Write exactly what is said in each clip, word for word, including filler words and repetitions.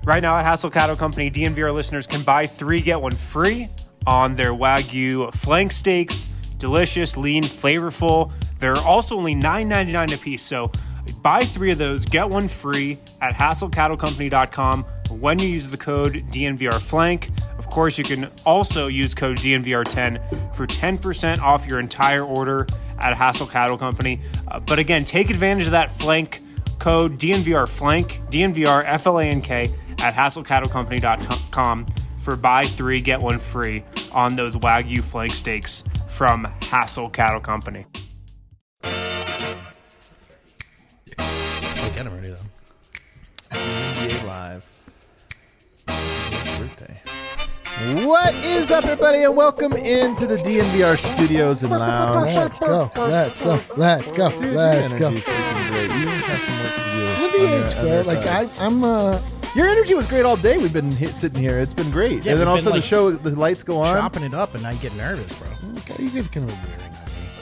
Right now at Hassel Cattle Company, D N V R listeners can buy three, get one free on their Wagyu flank steaks. Delicious, lean, flavorful. They're also only nine ninety-nine a piece. So buy three of those, get one free at hassel cattle company dot com when you use the code D N V R Flank. Of course, you can also use code D N V R ten for ten percent off your entire order at Hassel Cattle Company. Uh, but again, take advantage of that flank code D N V R Flank, D N V R F L A N K at hassel cattle company dot com for buy three, get one free on those Wagyu flank steaks from Hassel Cattle Company. Oh, get him ready though. N B A Live. Birthday. What is up, everybody, and welcome into the D N V R studios and lounge. Let's go, let's go, let's go, Dude, let's your go. energy's freaking great. You just have some work to do. Look on at your the age, other bro. Like side. I, I'm. Uh, Your energy was great all day. We've been hit, sitting here. It's been great. Yeah, and then we've also been, the like, show, the lights go on. Chopping it up, and I get nervous, bro. okay, you guys can be wearing on me.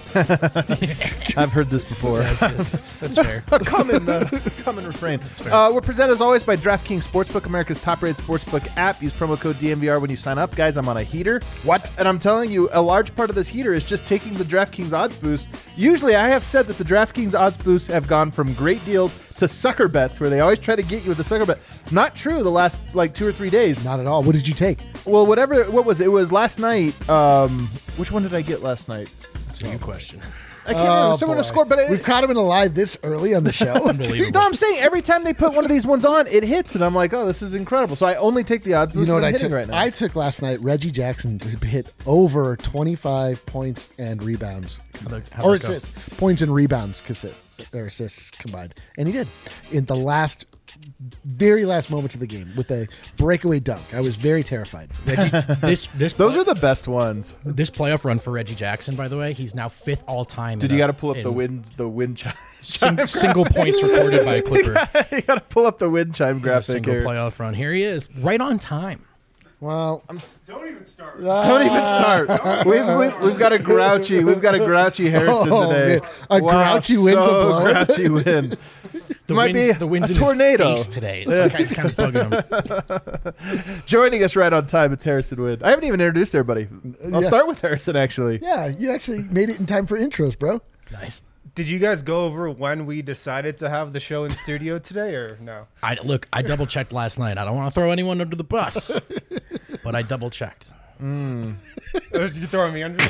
I've heard this before. That's fair. a common, uh, common refrain. Uh, we're presented as always by DraftKings Sportsbook, America's top-rated sportsbook app. Use promo code D N V R when you sign up. Guys, I'm on a heater. What? And I'm telling you, a large part of this heater is just taking the DraftKings odds boost. Usually, I have said that the DraftKings odds boosts have gone from great deals to sucker bets, where they always try to get you with a sucker bet. Not true the last, like, two or three days. Not at all. What did you take? Well, whatever, what was it? It was last night. Um, which one did I get last night? That's a good question. I can't remember. Someone to score, but it, we've caught him in a live this early on the show. Unbelievable. No, I'm saying every time they put one of these ones on, it hits, and I'm like, oh, this is incredible. So I only take the odds. You know what I took? Right now. I took last night Reggie Jackson to hit over twenty-five points and rebounds, How'd that- how'd or that go? assists, points and rebounds, cassette, or assists combined, and he did in the last, very last moments of the game with a breakaway dunk. I was very terrified. Reggie, this this Those play- are the best ones. this playoff run for Reggie Jackson. By the way, he's now fifth all time. Dude, in you a- got to pull up the in wind, the wind chime. sing- single points recorded by a Clipper. you got to pull up the wind chime in a graphic single here. playoff run. Here he is, right on time. Well, Don't even start. Don't even start. we've, we've we've got a grouchy. We've got a grouchy Harrison Oh, today. man. A grouchy wind's a so blow. grouchy wind. The Might wind's, be the wind's a in tornado. his face today. It's, like, it's kind of bugging him. Joining us right on time, it's Harrison Wind. I haven't even introduced everybody. I'll Yeah. start with Harrison, actually. yeah, you actually made it in time for intros, bro. Nice. Did you guys go over when we decided to have the show in studio today, or no? I look. I double checked last night. I don't want to throw anyone under the bus, but I double checked. You throwing me under?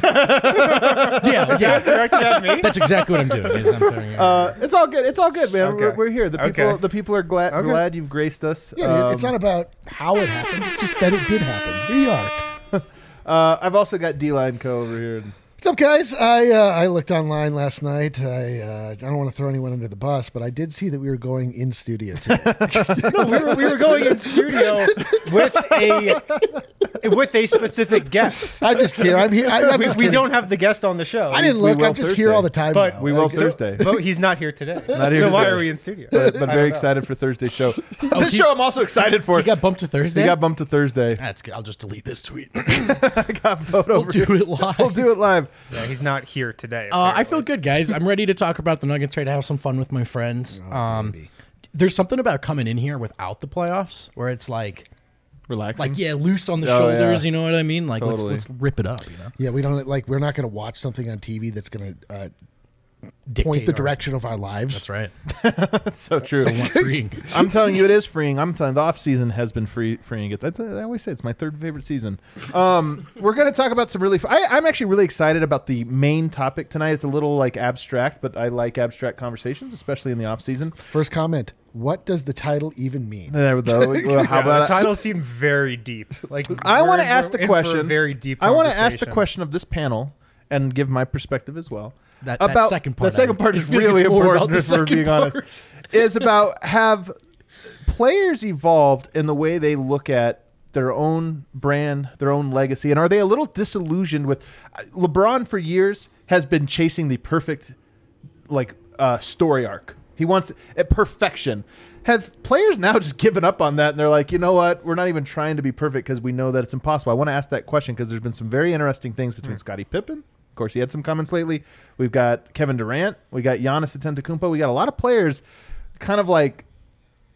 Yeah, yeah. Directed at me? That's exactly what I'm doing. Is I'm throwing you under Uh, it's all good. It's all good, man. Okay. We're, we're here. The people, Okay. the people are glad Okay. glad you've graced us. Yeah, dude, Um, it's not about how it happened. It's just that it did happen. Here you are. uh, I've also got D-Line Co over here. What's up, guys? I uh, I looked online last night. I uh, I don't want to throw anyone under the bus, but I did see that we were going in studio today. No, we were, we were going in studio with a with a specific guest. I'm just here. I'm here. I'm, I'm We, just we kidding. don't have the guest on the show. I didn't we look. will I'm just here Thursday. all the time. But now. We will Like, Thursday. But he's not here today. Not here so why today. are we in studio? But, but I very don't know. excited for Thursday's show. this he- show I'm also excited for. He got bumped to Thursday. He got bumped to Thursday. That's good. I'll just delete this tweet. I got vote we'll over do here. it live. We'll do it live. Yeah, he's not here today. Uh, I apparently. feel good, guys. I'm ready to talk about the Nuggets. Ready to have some fun with my friends. Oh, um, there's something about coming in here without the playoffs where it's like, Relaxing. like yeah, loose on the Oh, shoulders. yeah. You know what I mean? Like Totally. let's let's rip it up. You know, yeah, we don't like. We're not going to watch something on T V that's going to uh, Dictate point the our- direction of our lives. That's right. That's so true. Somewhat freeing. I'm telling you, it is freeing. I'm telling you, the off season has been free, freeing. It. That's I always say it's my third favorite season. Um, we're going to talk about some really. F- I, I'm actually really excited about the main topic tonight. It's a little like abstract, but I like abstract conversations, especially in the off season. First comment: what does the title even mean? There we go. Well, how Yeah, about the title seemed very deep. Like I we're want to in ask for- the in for a question. very deep. I want to ask the conversation. question of this panel and give my perspective as well. That- that about second part, The second I- part I is feel like really it's more about important. the If we're second being honest, part. is about have players evolved in the way they look at their own brand, their own legacy, and are they a little disillusioned with LeBron? For years has been chasing the perfect like uh, story arc. He wants uh, perfection. Have players now just given up on that and they're like, you know what? We're not even trying to be perfect because we know that it's impossible. I want to ask that question because there's been some very interesting things between Scottie Pippen. Of course, he had some comments lately. We've got Kevin Durant. We got Giannis Antetokounmpo. We got a lot of players kind of like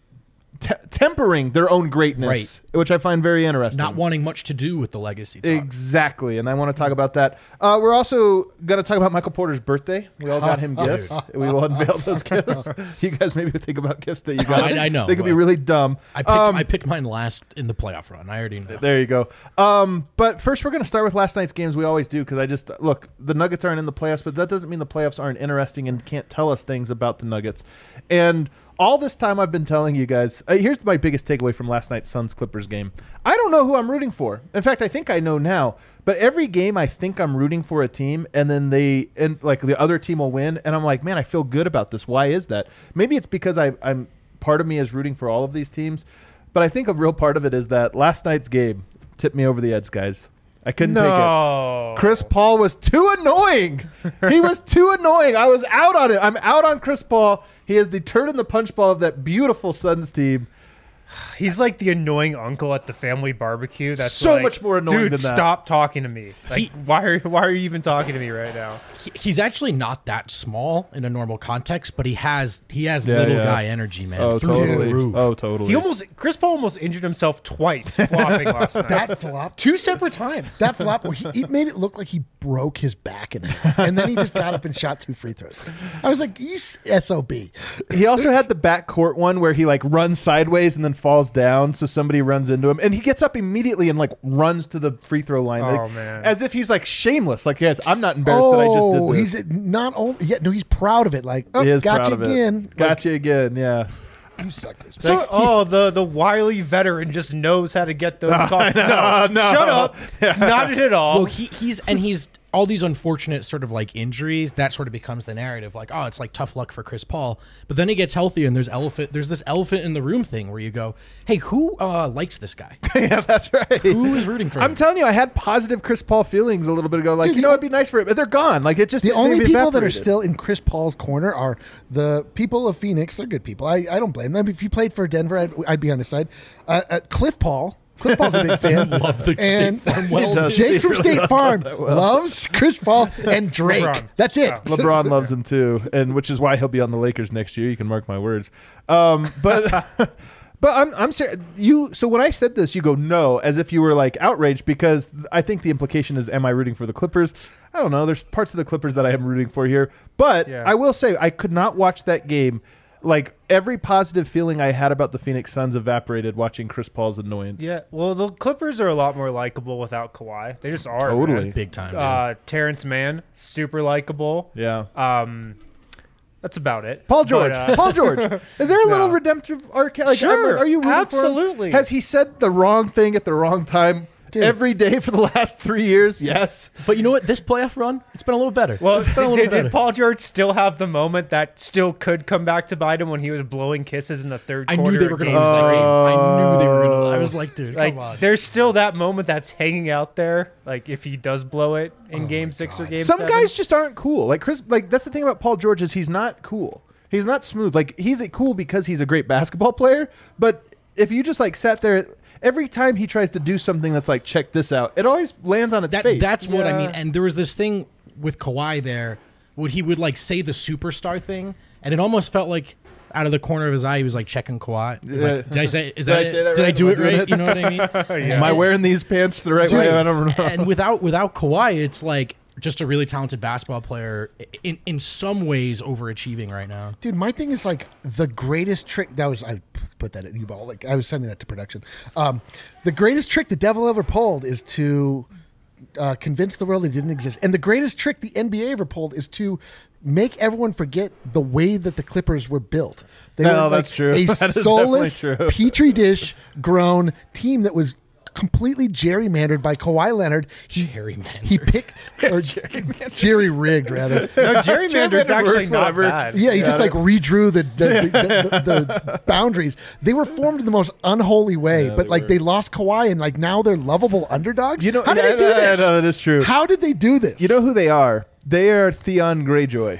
te- tempering their own greatness, Right. which I find very interesting. Not wanting much to do with the legacy talk. Exactly, and I want to talk about that. Uh, we're also going to talk about Michael Porter's birthday. We all got him gifts. We will unveil those gifts. You guys maybe think about gifts that you got. I- I know, They could be but- really dumb. I picked Um, I picked mine last in the playoff run. I already know. There you go. Um, but first, we're going to start with last night's games. We always do because I just look. The Nuggets aren't in the playoffs, but that doesn't mean the playoffs aren't interesting and can't tell us things about the Nuggets. And all this time, I've been telling you guys. Uh, here's my biggest takeaway from last night's Suns Clippers game. I don't know who I'm rooting for. In fact, I think I know now. But every game, I think I'm rooting for a team, and then they and like the other team will win, and I'm like, man, I feel good about this. Why is that? Maybe it's because I, I'm part of me is rooting for all of these teams. But I think a real part of it is that last night's game tipped me over the edge, guys. I couldn't take No. it. Chris Paul was too annoying. He was too annoying. I was out on it. I'm out on Chris Paul. He is the turd in the punch ball of that beautiful Suns team. He's like the annoying uncle at the family barbecue. That's So like, much more annoying Dude, than that. stop talking to me. Like, He- why are why are you even talking to me right now? He- he's actually not that small in a normal context, but he has he has Yeah, little yeah. guy energy, man. Oh, through the totally. roof. Oh, totally. He almost Chris Paul almost injured himself twice flopping last night. That flop. Two separate times. That flop, where he, he made it look like he broke his back in half, and then he just got up and shot two free throws. I was like, "You S O B." He also had the backcourt one where he like runs sideways and then falls down, so somebody runs into him, and he gets up immediately and like runs to the free throw line. Oh, like, man. as if he's like shameless. Like, yes, I'm not embarrassed Oh, that I just did this. he's not only yeah, no, he's proud of it. Like, oh, he is got proud you of it. again. Got you again. Yeah. Like, you suckers. So, oh, the the wily veteran just knows how to get those calls. know, no, no. shut up. It's not it at all. Well, he, he's and he's all these unfortunate sort of like injuries. That sort of becomes the narrative. Like, oh, it's like tough luck for Chris Paul. But then he gets healthy, and there's elephant. There's this elephant in the room thing where you go, hey, who uh, likes this guy? Yeah, that's right. Who is rooting for him? I'm telling you, I had positive Chris Paul feelings a little bit ago. Like, Dude, you the know, o- it'd be nice for him, but they're gone. Like, it just The they've only people that are evaporated. still in Chris Paul's corner are the people of Phoenix. They're good people. I, I don't blame them. If you played for Denver, I'd, I'd be on his side. Uh, uh, Cliff Paul. Cliff Paul's a big fan. Love the State and Farm well. does. Jake He from really State does Farm that well. loves Chris Paul and Drake. LeBron. That's it. Oh. LeBron loves him too, and which is why he'll be on the Lakers next year. You can mark my words. Um, but but I'm I'm serious. You so when I said this, you go no, as if you were like outraged because I think the implication is, am I rooting for the Clippers? I don't know. There's parts of the Clippers that I am rooting for here, but Yeah. I will say I could not watch that game. Like every positive feeling I had about the Phoenix Suns evaporated watching Chris Paul's annoyance. yeah, well, the Clippers are a lot more likable without Kawhi. They just are. Totally. man. Big time. dude. Uh, Terrence Mann, super likable. Yeah. Um, that's about it. Paul George. But, uh, Paul George. Is there a little No. redemptive arc? Like, Sure, are you rooting for him? absolutely. Has he said the wrong thing at the wrong time every day for the last three years? Yes. But you know what? This playoff run, it's been a little better. Well, it's been a did, little did, better. Paul George still have the moment that still could come back to bite him when he was blowing kisses in the third I quarter? knew they were of going to game lose that three? game. I knew they were going to. I was like, dude, Like, come on. there's still that moment that's hanging out there. Like, if he does blow it in Oh game six or game Some seven. guys just aren't cool. Like Chris. Like that's the thing about Paul George is he's not cool. He's not smooth. Like he's a cool because he's a great basketball player. But if you just like sat there. Every time he tries to do something that's like, check this out, it always lands on its That, face. that's what I Yeah. mean. And there was this thing with Kawhi there, where he would like say the superstar thing, and it almost felt like out of the corner of his eye, he was like checking Kawhi. He was like, Yeah. did I say? Is Did that I it? say that Did I right? do Am I it doing right? it? You know what I mean? Am I wearing these pants the right way? I don't know. And without without Kawhi, it's like just a really talented basketball player in in some ways overachieving right now. Dude, my thing is like the greatest trick. That was I put that at you ball. Like I was sending that to production. Um, the greatest trick the devil ever pulled is to uh, convince the world it didn't exist, and the greatest trick the N B A ever pulled is to make everyone forget the way that the Clippers were built. They No, were like that's true. a That is soulless definitely true. petri dish grown team that was completely gerrymandered by Kawhi Leonard. He, Gerrymandered. He picked or jerry rigged rather. No, gerrymander's Gerrymander actually works, not whatever. bad. Yeah, he just like redrew the the, the, the, the boundaries. They were formed in the most unholy way, but they like were. they lost Kawhi, and like now they're lovable underdogs. You know, how did yeah, they do yeah, this? no, that is true. How did they do this? You know who they are? They are Theon Greyjoy.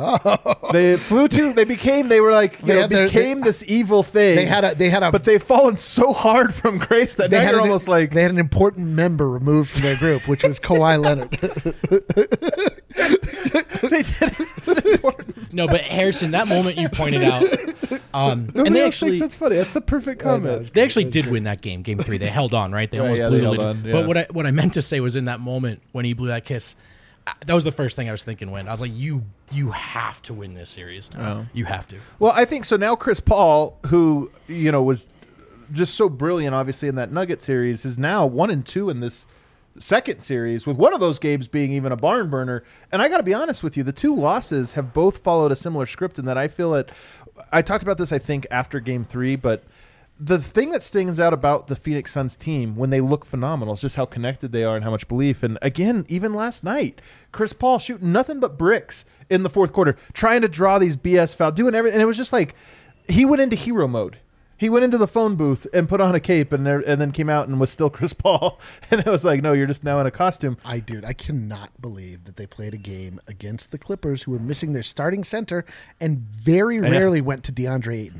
They flew to. They became. They were like. You They know, had their- became this evil thing. they had a they had a but they've fallen so hard from grace that they now had you're an, almost like they had an important member removed from their group, which was Kawhi Leonard. they did an important No, but Harrison, that moment you pointed out, um, Nobody and they else actually thinks that's funny. That's the perfect comment. they actually did win that game, game three. They held on, right? They Right, almost yeah, blew they the held lid. on, yeah. But what I what I meant to say was in that moment when he blew that kiss, uh, that was the first thing I was thinking. When I was like, you you have to win this series now. Oh. You have to. Well, I think so. Now Chris Paul, who you know was just so brilliant, obviously in that Nugget series, is now one and two in this second series, with one of those games being even a barn burner. And I got to be honest with you, the two losses have both followed a similar script in that I feel it. I talked about this, I think, after game three, but the thing that stings out about the Phoenix Suns team when they look phenomenal is just how connected they are and how much belief. And again, even last night, Chris Paul shooting nothing but bricks in the fourth quarter, trying to draw these B S fouls, doing everything. And it was just like he went into hero mode. He went into the phone booth and put on a cape and there, and then came out and was still Chris Paul. And it was like, no, you're just now in a costume. I, dude, I cannot believe that they played a game against the Clippers, who were missing their starting center and very rarely went to DeAndre Ayton.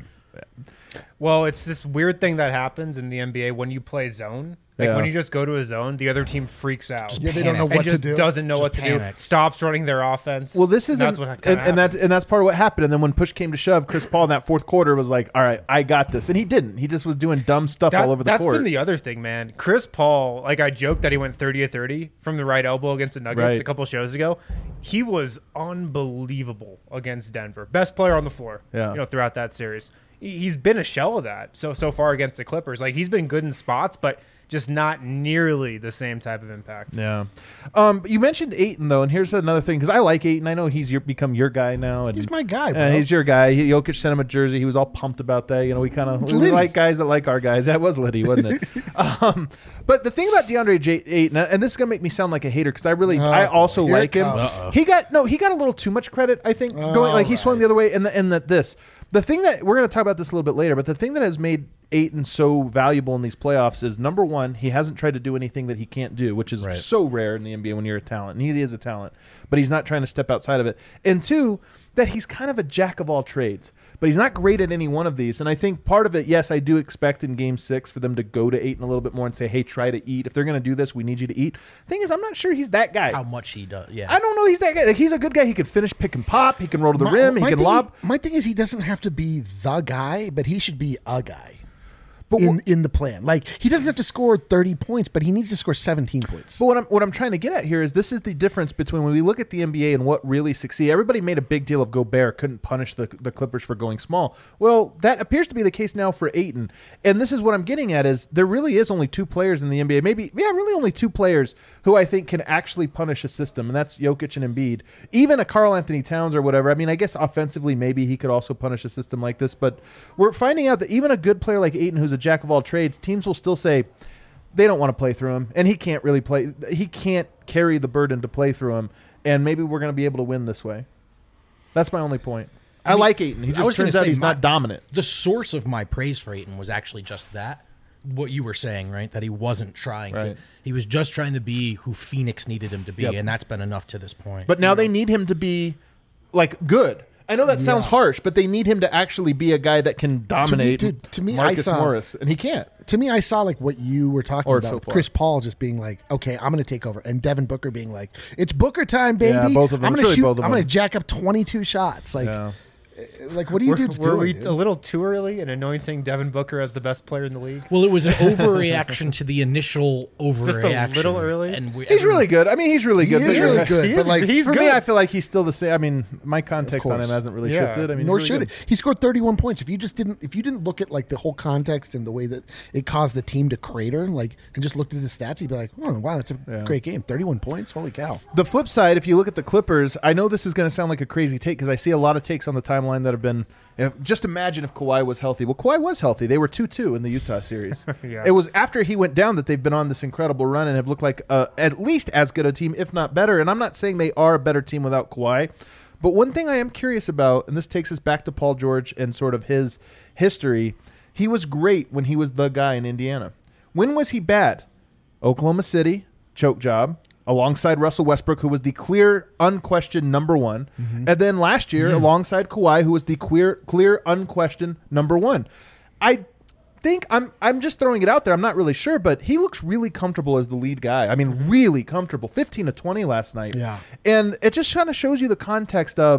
Well, it's this weird thing that happens in the N B A when you play zone. Like Yeah. when you just go to a zone, the other team freaks out. Yeah, they don't know Panic. what and just to do. doesn't know Just what to panics. do. Stops running their offense. Well, this is that's and, what and, and that's and that's part of what happened. And then when push came to shove, Chris Paul in that fourth quarter was like, "All right, I got this," and he didn't. He just was doing dumb stuff That- all over the that's court. been the other thing, man. Chris Paul, like I joked that he went thirty of thirty from the right elbow against the Nuggets Right. a couple shows ago. He was unbelievable against Denver. Best player on the floor, Yeah. you know, throughout that series. He- He's been a shell of that so so far against the Clippers. Like he's been good in spots, but just not nearly the same type of impact. Yeah. Um, you mentioned Ayton though, and here's another thing because I like Ayton. I know he's your, become your guy now, and He's my guy, Yeah, bro. he's your guy. He, Jokic sent him a jersey. He was all pumped about that. You know, we kind of we Liddy. like guys that like our guys. That was Liddy, wasn't it? um, but the thing about DeAndre J- Ayton, and this is gonna make me sound like a hater because I really, I Uh-oh. also Here it like him. comes. Uh-oh. He got no, he got a little too much credit. I think going like he All swung right. the other way, and the, and the, this. The thing that we're going to talk about this a little bit later, but the thing that has made Ayton so valuable in these playoffs is number one, he hasn't tried to do anything that he can't do, which is Right. so rare in the N B A when you're a talent. And he is a talent, but he's not trying to step outside of it. And two, that he's kind of a jack of all trades, but he's not great at any one of these. And I think part of it, yes, I do expect in Game Six for them to go to Ayton a little bit more and say, "Hey, try to eat. If they're going to do this, we need you to eat." Thing is, I'm not sure he's that guy. How much he does. Yeah. I don't know. He's that guy. Like, he's a good guy. He could finish, pick and pop. He can roll to the My- rim. He my can thing lob. Is, my thing is, he doesn't have to be the guy, but he should be a guy. But in wh- in the plan, like he doesn't have to score thirty points, but he needs to score seventeen points. But what I'm what I'm trying to get at here is this is the difference between when we look at the N B A and what really succeed. Everybody made a big deal of Gobert couldn't punish the the Clippers for going small. Well, that appears to be the case now for Ayton. And this is what I'm getting at is there really is only two players in the N B A. Maybe yeah, really only two players who I think can actually punish a system, and that's Jokic and Embiid. Even a Karl Anthony Towns or whatever. I mean, I guess offensively maybe he could also punish a system like this, but we're finding out that even a good player like Ayton who's a jack of all trades, teams will still say they don't want to play through him, and he can't really play. He can't carry the burden to play through him, and maybe we're going to be able to win this way. That's my only point. I, mean, like Ayton. He I just was gonna turns out say he's my- not dominant. The source of my praise for Ayton was actually just that. What you were saying, right? That he wasn't trying to. Right. He was just trying to be who Phoenix needed him to be, Yep. and that's been enough to this point. But now they need him to be like good. I know that sounds Yeah. harsh, but they need him to actually be a guy that can dominate to- to me, I Marcus saw- Morris, and he can't. To me, I saw like what you were talking Or about, so with far. Chris Paul just being like, "Okay, I'm going to take over," and Devin Booker being like, "It's Booker time, baby." Yeah, both of them. I'm It's going to really shoot. both of I'm going them. to jack up twenty-two shots. Like, Yeah. like what do you Were, dudes were doing? we dude? a little too early in anointing Devin Booker as the best player in the league? well, it was an overreaction to the initial overreaction. little early? And we, He's really good. I mean, he's really He good. is but really good, He but is- like he's for good. me, I feel like he's still the same. I mean, my context on him course. hasn't really Yeah. shifted. I mean, Nor he's should really it. He scored thirty-one points. If you just didn't, if you didn't look at like the whole context and the way that it caused the team to crater, like, and just looked at his stats, you'd be like, "Oh, wow, that's a Yeah. great game. thirty-one points. Holy cow!" The flip side, if you look at the Clippers, I know this is going to sound like a crazy take because I see a lot of takes on the timeline that have been. You know, just imagine if Kawhi was healthy. Well, Kawhi was healthy. They were two two in the Utah series. Yeah. It was after he went down that they've been on this incredible run and have looked like uh, at least as good a team, if not better. And I'm not saying they are a better team without Kawhi. But one thing I am curious about, and this takes us back to Paul George and sort of his history, he was great when he was the guy in Indiana. When was he bad? Oklahoma City, choke job, alongside Russell Westbrook, who was the clear, unquestioned number one. And then last year, alongside Kawhi, who was the clear, clear, unquestioned number one. I think I'm I'm just throwing it out there. I'm not really sure, but he looks really comfortable as the lead guy. I mean, really comfortable. fifteen to twenty last night. Yeah. And it just kind of shows you the context of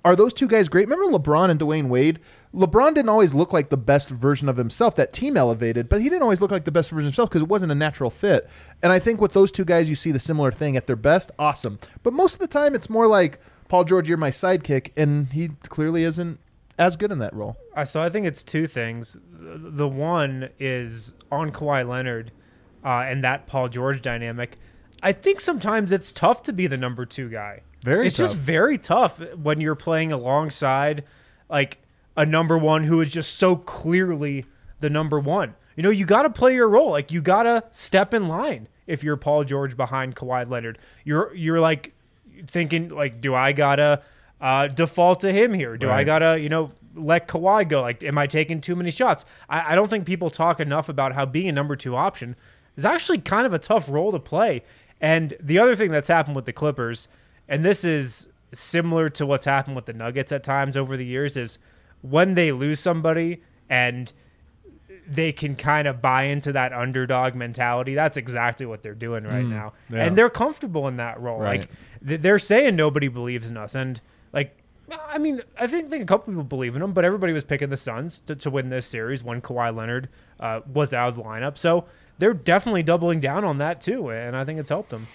Are those two guys great? Remember LeBron and Dwayne Wade? LeBron didn't always look like the best version of himself. That team elevated, but he didn't always look like the best version of himself because it wasn't a natural fit. And I think with those two guys, you see the similar thing at their best. Awesome. But most of the time, it's more like, Paul George, you're my sidekick, and he clearly isn't as good in that role. Uh, so I think it's two things. The one is on Kawhi Leonard uh, and that Paul George dynamic. I think sometimes it's tough to be the number two guy. Very it's tough. just very tough when you're playing alongside like a number one who is just so clearly the number one. You know, you got to play your role. Like, you got to step in line if you're Paul George behind Kawhi Leonard. You're you're like thinking, like, do I got to uh, default to him here? Do Right. I got to, you know, let Kawhi go? Like, am I taking too many shots? I, I don't think people talk enough about how being a number two option is actually kind of a tough role to play. And the other thing that's happened with the Clippers, and this is similar to what's happened with the Nuggets at times over the years, is when they lose somebody and they can kind of buy into that underdog mentality, that's exactly what they're doing right Mm, now. yeah. And they're comfortable in that role. Right. Like, th- they're saying nobody believes in us. And, like, I mean, I think, think a couple people believe in them, but everybody was picking the Suns to, to win this series when Kawhi Leonard uh, was out of the lineup. So they're definitely doubling down on that too, and I think it's helped them.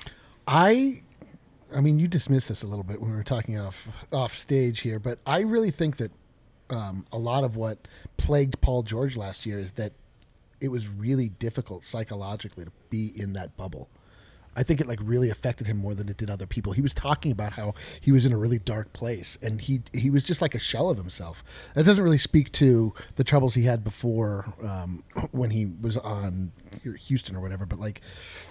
I, I mean, you dismissed this a little bit when we were talking off off stage here, but I really think that um, a lot of what plagued Paul George last year is that it was really difficult psychologically to be in that bubble. I think it like really affected him more than it did other people. He was talking about how he was in a really dark place, and he he was just like a shell of himself. That doesn't really speak to the troubles he had before um, when he was on Houston or whatever. But like,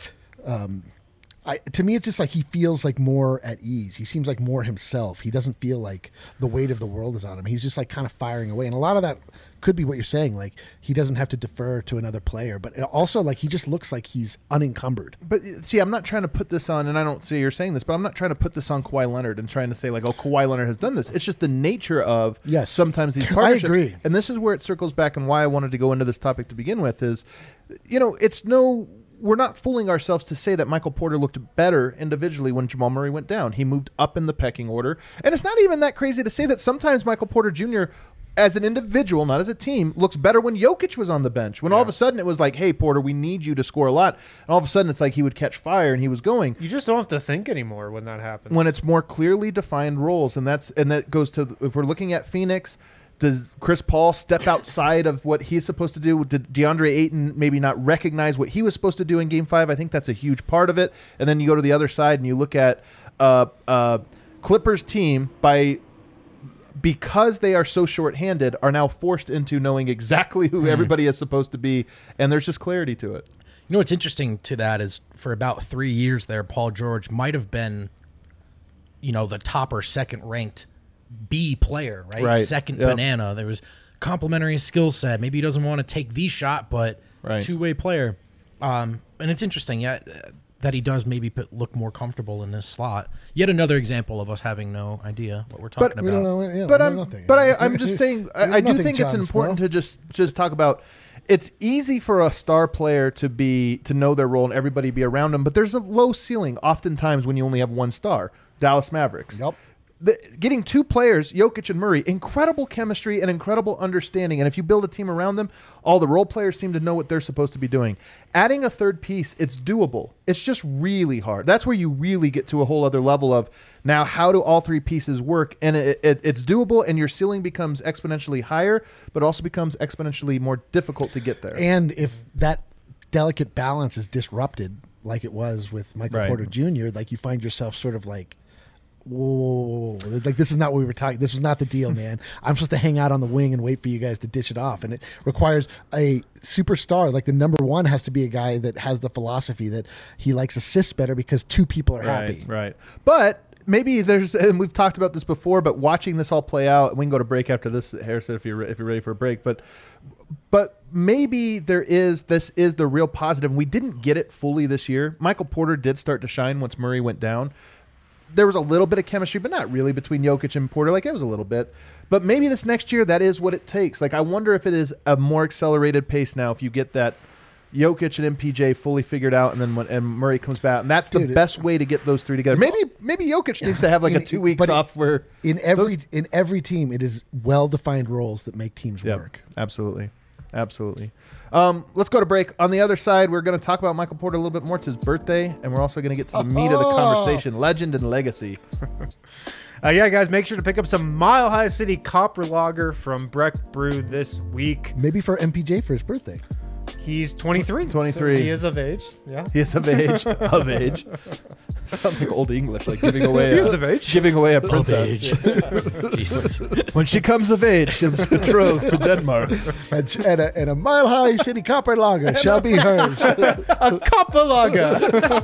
um, I to me, it's just like he feels like more at ease. He seems like more himself. He doesn't feel like the weight of the world is on him. He's just like kind of firing away, and a lot of that could be what you're saying. Like, he doesn't have to defer to another player, but also like he just looks like he's unencumbered. But see, I'm not trying to put this on, and I don't see you're saying this, but I'm not trying to put this on Kawhi Leonard and trying to say like, oh, Kawhi Leonard has done this. It's just the nature of Yes. sometimes these partnerships. I agree. And this is where it circles back, and why I wanted to go into this topic to begin with is, you know, it's no, we're not fooling ourselves to say that Michael Porter looked better individually when Jamal Murray went down. He moved up in the pecking order, and it's not even that crazy to say that sometimes Michael Porter Junior as an individual, not as a team, looks better when Jokic was on the bench. When all of a sudden it was like, hey, Porter, we need you to score a lot. And all of a sudden it's like he would catch fire and he was going. You just don't have to think anymore when that happens. When it's more clearly defined roles, and that's and that goes to, if we're looking at Phoenix, does Chris Paul step outside of what he's supposed to do? Did DeAndre Ayton maybe not recognize what he was supposed to do in Game Five? I think that's a huge part of it. And then you go to the other side and you look at uh, uh, Clippers team by. Because they are so shorthanded, are now forced into knowing exactly who mm. everybody is supposed to be, and there's just clarity to it. You know what's interesting to that is for about three years there, Paul George might have been, you know, the top or second ranked B player, right? Right. Second Yep. banana. There was complementary skill set. Maybe he doesn't want to take the shot, but Right. two way player. Um, and it's interesting, yeah, that he does maybe put, look more comfortable in this slot. Yet another example of us having no idea what we're talking But- about. We don't know. Yeah, But we know I'm, nothing. but I, I'm just saying, We I, know I do nothing, think it's Jon important Snow. to just just talk about. It's easy for a star player to be to know their role and everybody be around them, but there's a low ceiling oftentimes when you only have one star. Dallas Mavericks. Yep. The, getting two players, Jokic and Murray, incredible chemistry and incredible understanding. And if you build a team around them, all the role players seem to know what they're supposed to be doing. Adding a third piece, it's doable. It's just really hard. That's where you really get to a whole other level of now how do all three pieces work? And it, it, it's doable, and your ceiling becomes exponentially higher, but also becomes exponentially more difficult to get there. And if that delicate balance is disrupted, like it was with Michael Right. Porter Junior, like you find yourself sort of like, whoa, whoa, whoa, like this is not what we were talking. This was not the deal, man. I'm supposed to hang out on the wing and wait for you guys to dish it off, and it requires a superstar. Like the number one has to be a guy that has the philosophy that he likes assists better because two people are happy. Right, right. But maybe there's, and we've talked about this before, but watching this all play out, we can go to break after this, Harrison, if you're if you're ready for a break. But but maybe there is this is the real positive. We didn't get it fully this year. Michael Porter did start to shine once Murray went down. There was a little bit of chemistry, but not really between Jokic and Porter. Like it was a little bit. But maybe this next year, that is what it takes. Like I wonder if it is a more accelerated pace now if you get that Jokic and M P J fully figured out, and then when and Murray comes back, and that's the Dude, best way to get those three together. Maybe maybe Jokic needs to have like In- a two weeks but off where in every those- in every team, it is well defined roles that make teams Yep, work. absolutely, absolutely. Um, let's go to break. On the other side, we're going to talk about Michael Porter a little bit more. It's his birthday, and we're also going to get to the meat of the conversation: legend and legacy. Uh, yeah, guys, make sure to pick up some Mile High City Copper Lager from Breck Brew this week. Maybe for M P J for his birthday. He's twenty-three. twenty-three. So he is of age. Yeah. He is of age. Of age. Sounds like old English, like giving away. He a, is of age. Giving away a Of princess. age. Jesus. When she comes of age, she's betrothed to Denmark. And, and, a, and a Mile High City Copper Lager shall be hers. A Copper Lager.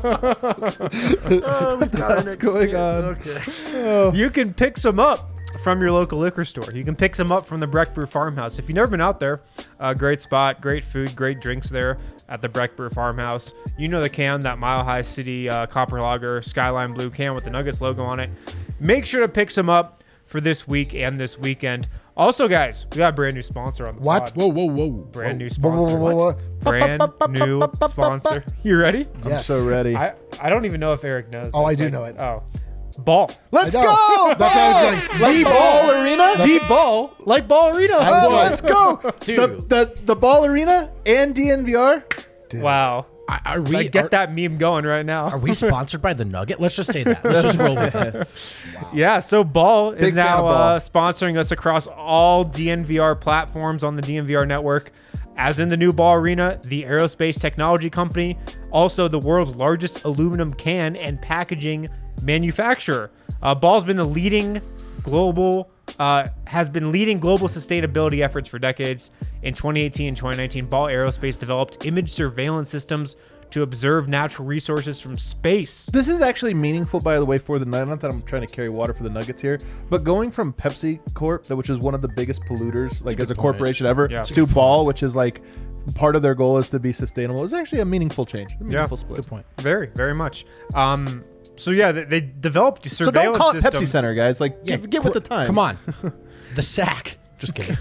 What's going on? Okay. You can pick some up from your local liquor store. You can pick some up from the Breck Brew Farmhouse. If you've never been out there, uh, great spot, great food, great drinks there at the Breck Brew Farmhouse. You know the can, that Mile High City uh, Copper Lager Skyline Blue can with the Nuggets logo on it. Make sure to pick some up for this week and this weekend. Also, guys, we got a brand new sponsor on the What? pod. Whoa, whoa, whoa. Brand new Whoa, whoa, sponsor. whoa, whoa. Brand new sponsor. You ready? I'm Yes. so ready. I, I don't even know if Eric knows. Oh, this. I do Like, know it. Oh. Ball. Let's I know. go! That's what I was going. The Ball Arena? The ball. Like Ball Arena. I Oh, won. let's go! Dude. The, the the Ball Arena and D N V R. Dude. Wow. I, are we I get are, that meme going right Are now. we sponsored by the Nugget? Let's just say that. Let's just roll with it. Yeah, so Ball Big is fan now of Ball. uh, sponsoring us across all D N V R platforms on the D N V R network. As in the new Ball Arena, the aerospace technology company, also the world's largest aluminum can and packaging manufacturer. Uh, Ball's been the leading global, uh, has been leading global sustainability efforts for decades. In twenty eighteen and twenty nineteen, Ball Aerospace developed image surveillance systems to observe natural resources from space. This is actually meaningful, by the way, for the not that I'm trying to carry water for the Nuggets here, but going from Pepsi Corp, which is one of the biggest polluters, like as a good point. corporation ever, Yeah. to Ball, which is like part of their goal is to be sustainable, is actually a meaningful change. A meaningful split. Good point. Very, very much. Um, so yeah, they, they developed So surveillance don't call it systems. Pepsi Center, guys. Like, Yeah, get, get with qu- the time. Come on. The sack. Just kidding.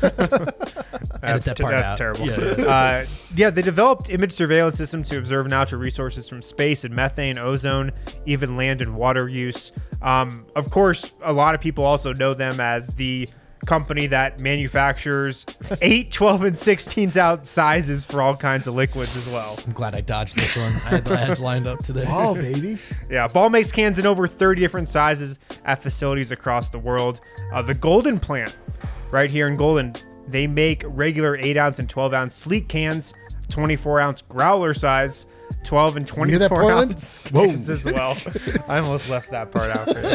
That's, that te- part that's out. terrible. Yeah, yeah. Uh, yeah, they developed image surveillance systems to observe natural resources from space and methane, ozone, even land and water use. Um, of course, a lot of people also know them as the company that manufactures eight, twelve, and sixteen ounce sizes for all kinds of liquids as well. I'm glad I dodged this one. I had the ads lined up today. Oh, baby. Yeah, Ball makes cans in over thirty different sizes at facilities across the world. Uh, the Golden plant, right here in Golden, they make regular eight ounce and twelve ounce sleek cans, twenty-four ounce growler size, twelve and hear that, twenty-four Portland? ounce cans as well. I almost left that part out for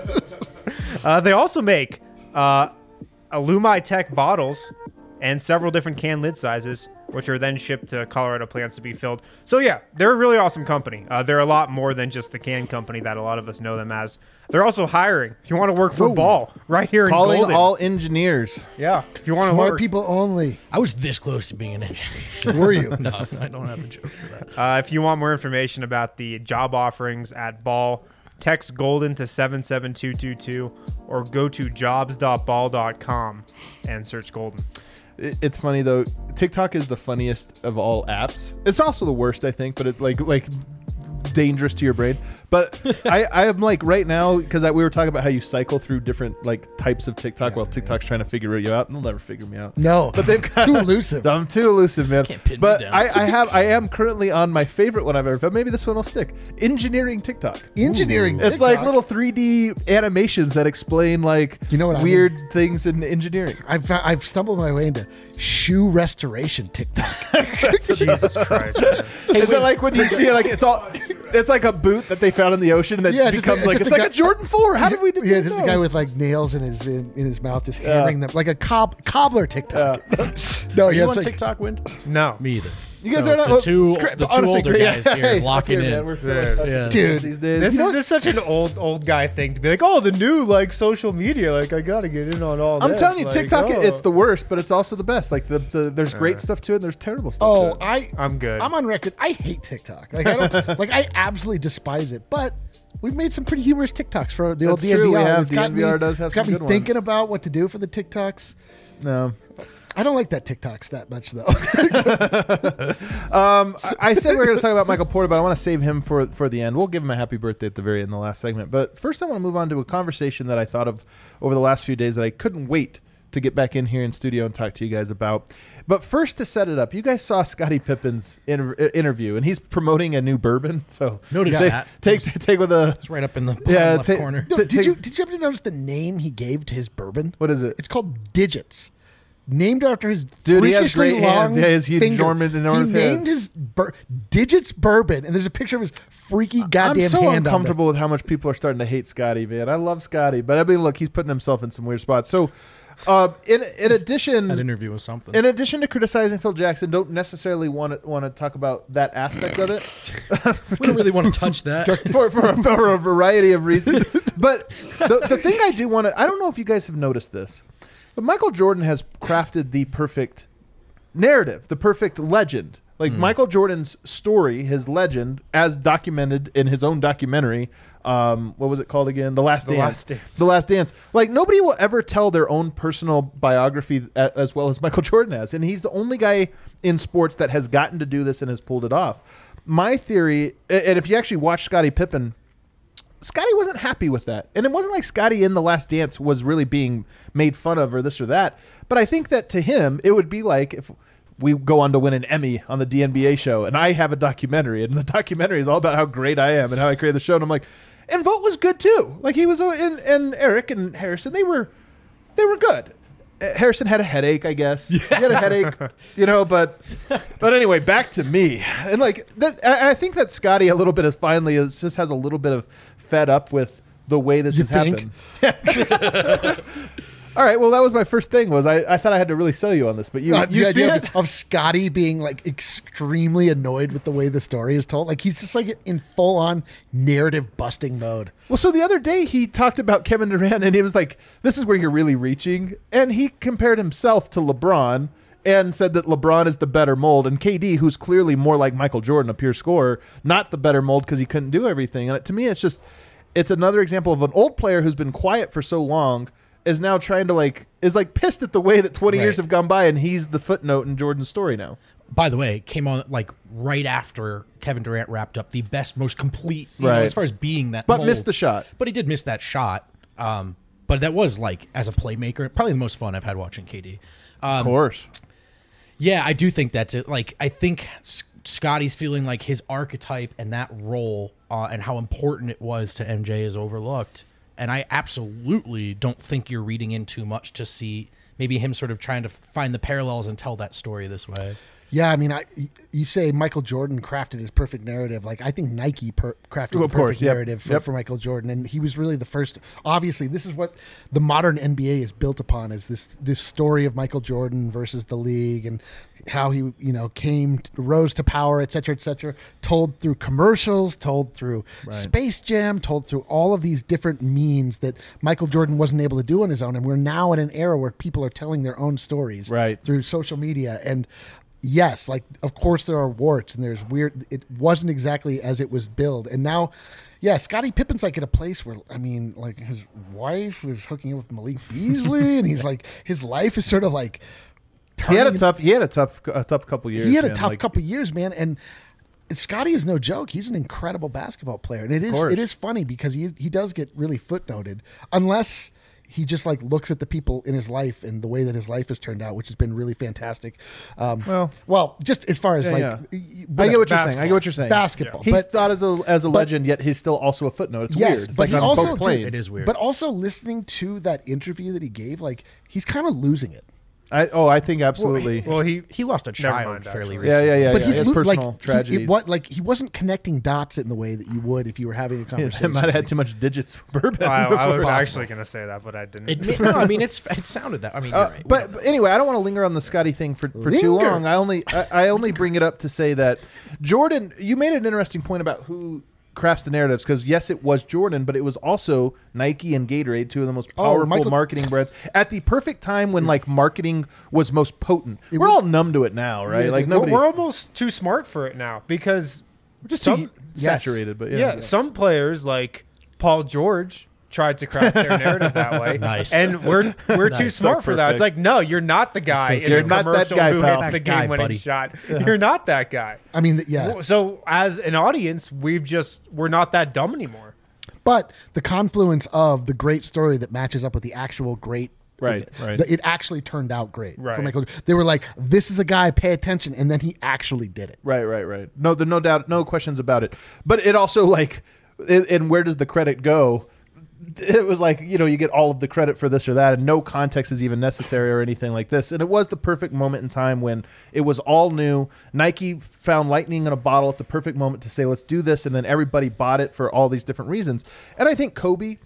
you. Uh, they also make uh, Alumi Tech bottles and several different can lid sizes, which are then shipped to Colorado plants to be filled. So yeah, they're a really awesome company. Uh, they're a lot more than just the can company that a lot of us know them as. They're also hiring. If you want to work for Whoa. Ball, right here in Calling Golden. all engineers. yeah, if you want to Smart work. people only. I was this close to being an engineer. Were you? No, I don't have a joke for that. Uh, if you want more information about the job offerings at Ball, text Golden to seven seven two two two or go to jobs dot ball dot com and search Golden. It- It's funny though. TikTok is the funniest of all apps. It's also the worst, I think, but it's like like dangerous to your brain. But I, I am like right now because we were talking about how you cycle through different like types of TikTok while TikTok's trying to figure you out, and they'll never figure me out. No. But they've got Too elusive. I'm too elusive, man. Can't pin me but down. I, I have I am currently on my favorite one I've ever found. Maybe this one will stick. Engineering TikTok. Engineering. It's like TikTok. little three D animations that explain like You know what I weird things in engineering. I've fou- I've stumbled my way into shoe restoration TikTok. Jesus Christ. Man. Is it like when you see like it's all it's like a boot that they found in the ocean that Yeah, just becomes a- like just it's a like guy- a Jordan four. How did we do Yeah, this? just a guy with like nails in his in, in his mouth, just hammering them like a cob cobbler TikTok. no, Are yeah, you it's on like, TikTok, Wind? No. Me either. You guys So are not the well, two scra- the two honestly, older great. guys Yeah, here hey, locking fuck yeah, in. man, we're so Yeah. fucking Yeah. serious Dude, these days. This, You know is, this is such an old old guy thing to be like, oh, the new like social media, like I gotta get in on all I'm this. telling you, Like, TikTok, oh. it's the worst, but it's also the best. Like the, the there's great stuff to it, and there's terrible stuff. oh, to it. I I'm good. I'm on record. I hate TikTok. Like I don't like I absolutely despise it. But we've made some pretty humorous TikToks for the old That's true, D N V R. we have. It's got D N V R me, does have it's got some me good thinking ones. about what to do for the TikToks. no. I don't like that TikToks that much though. Um, I, I said we are going to talk about Michael Porter, but I want to save him for for the end. We'll give him a happy birthday at the very end, the last segment. But first, I want to move on to a conversation that I thought of over the last few days that I couldn't wait to get back in here in studio and talk to you guys about. But first, to set it up, you guys saw Scottie Pippen's inter- interview, and he's promoting a new bourbon. So Noticed take, that. Take take with a It's right up in the bottom Yeah, left ta- corner. ta- No, did take- you did you ever notice the name he gave to his bourbon? What is it? It's called Digits. Named after his Dude, he has freakishly great long hands. Yeah, his huge finger. enormous- enormous He named hands. his bur- Digits Bourbon, and there's a picture of his freaky goddamn I'm so hand uncomfortable with how much people are starting to hate Scotty, man. I love Scotty, but I mean, look, he's putting himself in some weird spots. So, uh, in in addition, That interview was something. in addition to criticizing Phil Jackson, don't necessarily want to want to talk about that aspect of it we don't really want to touch that. for, for, a, for a variety of reasons. But the, the thing I do want to, I don't know if you guys have noticed this, but Michael Jordan has crafted the perfect narrative, the perfect legend. Like Hmm. Michael Jordan's story, his legend, as documented in his own documentary. Um, what was it called again? The Last The Dance. Last Dance. The Last Dance. Like nobody will ever tell their own personal biography a, as well as Michael Jordan has, and he's the only guy in sports that has gotten to do this and has pulled it off. My theory, a- and if you actually watch Scottie Pippen, Scotty wasn't happy with that. And it wasn't like Scotty in The Last Dance was really being made fun of or this or that. But I think that to him, it would be like if we go on to win an Emmy on the D N B A show and I have a documentary and the documentary is all about how great I am and how I created the show. And I'm like, and Vogt was good too. Like he was, and, and Eric and Harrison, they were, they were good. Uh, Harrison had a headache, I guess. He had a headache, you know, but but anyway, back to me. And like that, I I think that Scotty a little bit is finally is, just has a little bit of fed up with the way this You has think? happened. All right, well, that was my first thing. Was I, I thought I had to really sell you on this, but you Uh, you the see idea it? of, of Scotty being like extremely annoyed with the way the story is told. Like he's just like in full on narrative busting mode. Well, so the other day he talked about Kevin Durant, and he was like, "This is where you're really reaching," and he compared himself to LeBron and said that LeBron is the better mold, and K D, who's clearly more like Michael Jordan, a pure scorer, not the better mold because he couldn't do everything. And it, to me, it's just it's another example of an old player who's been quiet for so long is now trying to like is like pissed at the way that twenty years Right. have gone by, and he's the footnote in Jordan's story now. By the way, came on like right after Kevin Durant wrapped up the best, most complete, you know, Right. as far as being that. But mold. missed the shot. But he did miss that shot. Um, but that was like as a playmaker, probably the most fun I've had watching K D. Um, Of course. Yeah, I do think that's it. Like, I think S- Scotty's feeling like his archetype and that role uh, and how important it was to M J is overlooked. And I absolutely don't think you're reading in too much to see maybe him sort of trying to find the parallels and tell that story this way. Yeah, I mean, I you say Michael Jordan crafted his perfect narrative. Like I think Nike per- crafted Well, the of perfect course, yep, narrative for, yep. for Michael Jordan, and he was really the first. Obviously, this is what the modern N B A is built upon: is this this story of Michael Jordan versus the league, and how he you know came rose to power, et cetera, et cetera. Told through commercials, told through Space Jam, told through all of these different means that Michael Jordan wasn't able to do on his own. And we're now in an era where people are telling their own stories Right. through social media and. Yes, like of course there are warts and there's weird. It wasn't exactly as it was billed, and now, yeah, Scottie Pippen's like at a place where I mean, like his wife was hooking up with Malik Beasley, and he's like his life is sort of like. He had a turning- tough he had a tough a tough couple years. He had a man. tough Like, couple years, man, and Scotty is no joke. He's an incredible basketball player, and it is course. it is funny because he he does get really footnoted unless. He just like looks at the people in his life and the way that his life has turned out, which has been really fantastic. Um, Well- well, just as far as Yeah, like, yeah. y- y- I get what you're saying. I Basketball. get what you're saying. Basketball. He's But- thought as a as a but- legend, yet he's still also a footnote. It's Yes, weird. It's but like he on also- both planes. It is weird. But also listening to that interview that he gave, like he's kind of losing it. I, oh, I think absolutely. Well, he He lost a Never child mind, fairly actually. yeah, recently. yeah, yeah. but yeah. he's He has lo- personal like he, tragedies. it, what like he wasn't connecting dots in the way that you would if you were having a Yeah, conversation. might have had too much digits bourbon. I, I was before. actually going to say that, but I didn't. It, may- no, I mean, it's it sounded that. I mean, you're Uh, right. but, but anyway, I don't want to linger on the Scotty thing for, for too Linger. long. I only I, I only bring it up to say that Jordan. You made an interesting point about who crafts the narratives because yes, it was Jordan, but it was also Nike and Gatorade, two of the most Oh, powerful Michael- marketing brands, at the perfect time when like marketing was most potent. It We're was- all numb to it now, right? Yeah, like we're- nobody. we're almost too smart for it now because just some- too saturated, but yeah, yeah, some players like Paul George tried to craft their narrative that way. Nice. And we're we're too Nice. smart So for that. It's like, perfect. no, you're not the guy so in cute. the You're not that commercial guy, who pal. hits the That guy, game-winning buddy. shot. You're not that guy. I mean, yeah. So as an audience, we've just we're not that dumb anymore. But the confluence of the great story that matches up with the actual great. Right, right. the- It actually turned out great. Right. For Michael, they were like, "This is the guy. Pay attention," and then he actually did it. Right, right, right. No, there's no doubt, no questions about it. But it also like, it, and where does the credit go? It was like, you know, you get all of the credit for this or that, and no context is even necessary or anything like this. And it was the perfect moment in time when it was all new. Nike found lightning in a bottle at the perfect moment to say, let's do this. And then everybody bought it for all these different reasons. And I think Kobe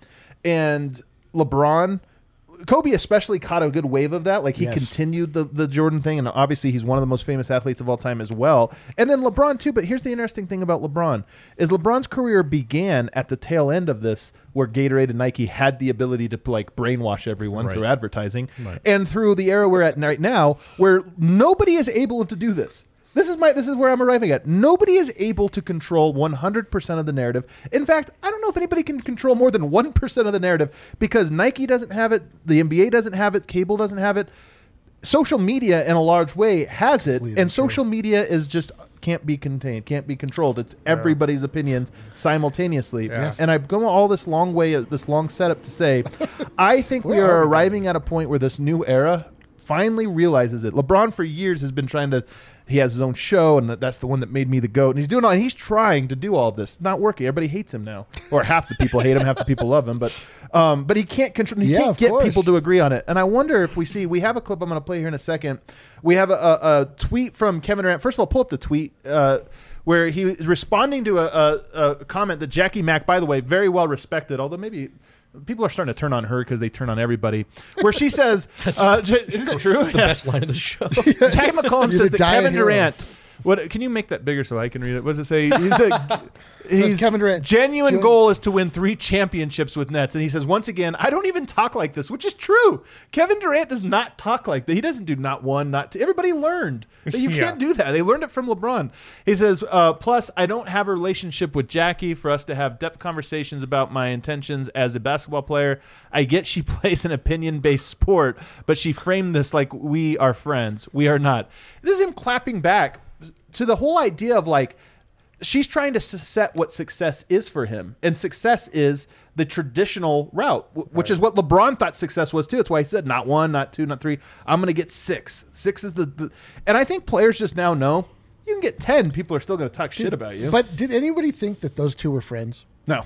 and LeBron, Kobe especially caught a good wave of that. Like he Yes. continued the, the Jordan thing, and obviously he's one of the most famous athletes of all time as well. And then LeBron too. But here's the interesting thing about LeBron is LeBron's career began at the tail end of this, where Gatorade and Nike had the ability to like brainwash everyone Right. through advertising, Right. and through the era we're at right now, where nobody is able to do this. This is my. This is where I'm arriving at. Nobody is able to control one hundred percent of the narrative. In fact, I don't know if anybody can control more than one percent of the narrative, because Nike doesn't have it, the N B A doesn't have it, cable doesn't have it. Social media, in a large way, has it, Completely and true. social media is just can't be contained, can't be controlled. It's everybody's opinions simultaneously. Yes. And I've gone all this long way, this long setup to say, I think we Where are are we arriving at a point where this new era finally realizes it. LeBron for years has been trying to. He has his own show, and that- that's the one that made me the GOAT. And he's doing all. And he's trying to do all of this. Not working. Everybody hates him now, or half the people hate him, half the people love him. But, um, but he can't control. He Yeah, can't of get course. people to agree on it. And I wonder if we see. We have a clip I'm going to play here in a second. We have a, a, a tweet from Kevin Durant. First of all, pull up the tweet. Uh, where he is responding to a, a, a comment that Jackie Mack, by the way, very well respected, although maybe people are starting to turn on her because they turn on everybody, where she says, uh, j- isn't it true? The best line of the show. Jackie McCollum You're says the that Kevin dying hero. Durant. What can you make that bigger so I can read it? What does it say? He's a, he's Kevin Durant, genuine June- goal is to win three championships with Nets, and he says once again, I don't even talk like this, which is true. Kevin Durant does not talk like that. He doesn't do not one, not two. Everybody learned that you Yeah. can't do that. They learned it from LeBron. He says, uh, plus, I don't have a relationship with Jackie for us to have depth conversations about my intentions as a basketball player. I get she plays an opinion-based sport, but she framed this like we are friends. We are not. This is him clapping back to the whole idea of like, she's trying to s- set what success is for him. And success is the traditional route, w- which is what LeBron thought success was too. That's why he said not one, not two, not three. I'm going to get six. Six is the, the, and I think players just now know you can get ten. People are still going to talk shit about you. But did anybody think that those two were friends? no.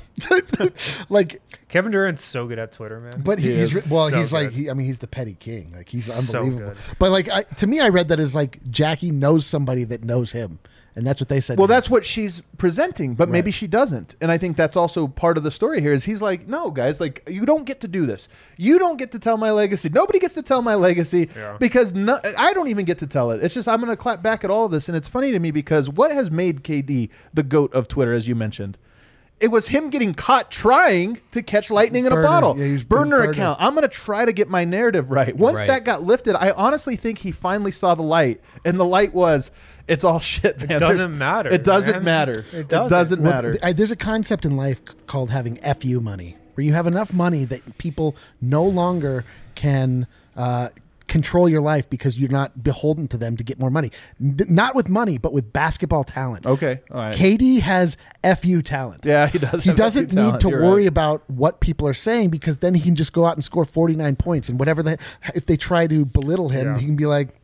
Like, Kevin Durant's so good at Twitter, man. but He he's is re- well, so he's like, good. he, I mean, he's the petty king. Like, he's So unbelievable. good. But like, I, to me, I read that as like Jackie knows somebody that knows him, and that's what they said. Well, to him. that's what she's presenting, but maybe Right. she doesn't. And I think that's also part of the story here is he's like, no, guys, like you don't get to do this. You don't get to tell my legacy. Nobody gets to tell my legacy Yeah. because no, I don't even get to tell it. It's just I'm going to clap back at all of this. And it's funny to me because what has made K D the GOAT of Twitter, as you mentioned? It was him getting caught trying to catch lightning in Burner. a bottle. Yeah, he was- burner burner. account. I'm going to try to get my narrative right. Once Right. that got lifted, I honestly think he finally saw the light. And the light was, it's all shit, man. doesn't There's- matter, It doesn't man. matter. It It doesn't. doesn't, Well, matter. th- I, there's a concept in life c- called having F U money, where you have enough money that people no longer can uh, control your life because you're not beholden to them to get more money. N- not with money, but with basketball talent. Okay. All right. K D has F U talent. Yeah, he does. He have doesn't F U need talent. to You're worry right. about what people are saying because then he can just go out and score forty-nine points and whatever the if they try to belittle him, Yeah. he can be like,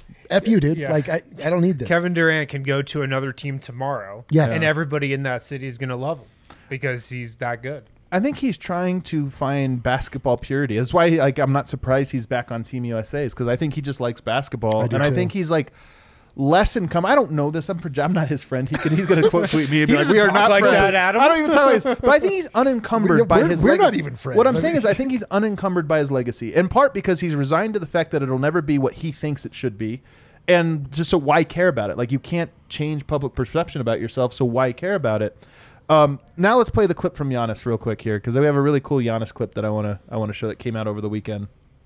F you, dude. Yeah. Like I, I don't need this. Kevin Durant can go to another team tomorrow, Yes. and everybody in that city is going to love him because he's that good. I think he's trying to find basketball purity. That's why, like, I'm not surprised he's back on Team U S A, because I think he just likes basketball, I do and I too. think he's like less income. I don't know this. I'm proje- I'm not his friend. He can, he's going to quote tweet me and be He like, "We doesn't are talk not like friends." that, Adam. I don't even tell him. But I think he's unencumbered We're- by we're- his. we're not legacy. even friends. What I'm I saying mean- is, I think he's unencumbered by his legacy, in part because he's resigned to the fact that it'll never be what he thinks it should be. And just so why care about it? Like, you can't change public perception about yourself, so why care about it? Um, now let's play the clip from Giannis real quick here, because we have a really cool Giannis clip that I want to I want to show that came out over the weekend.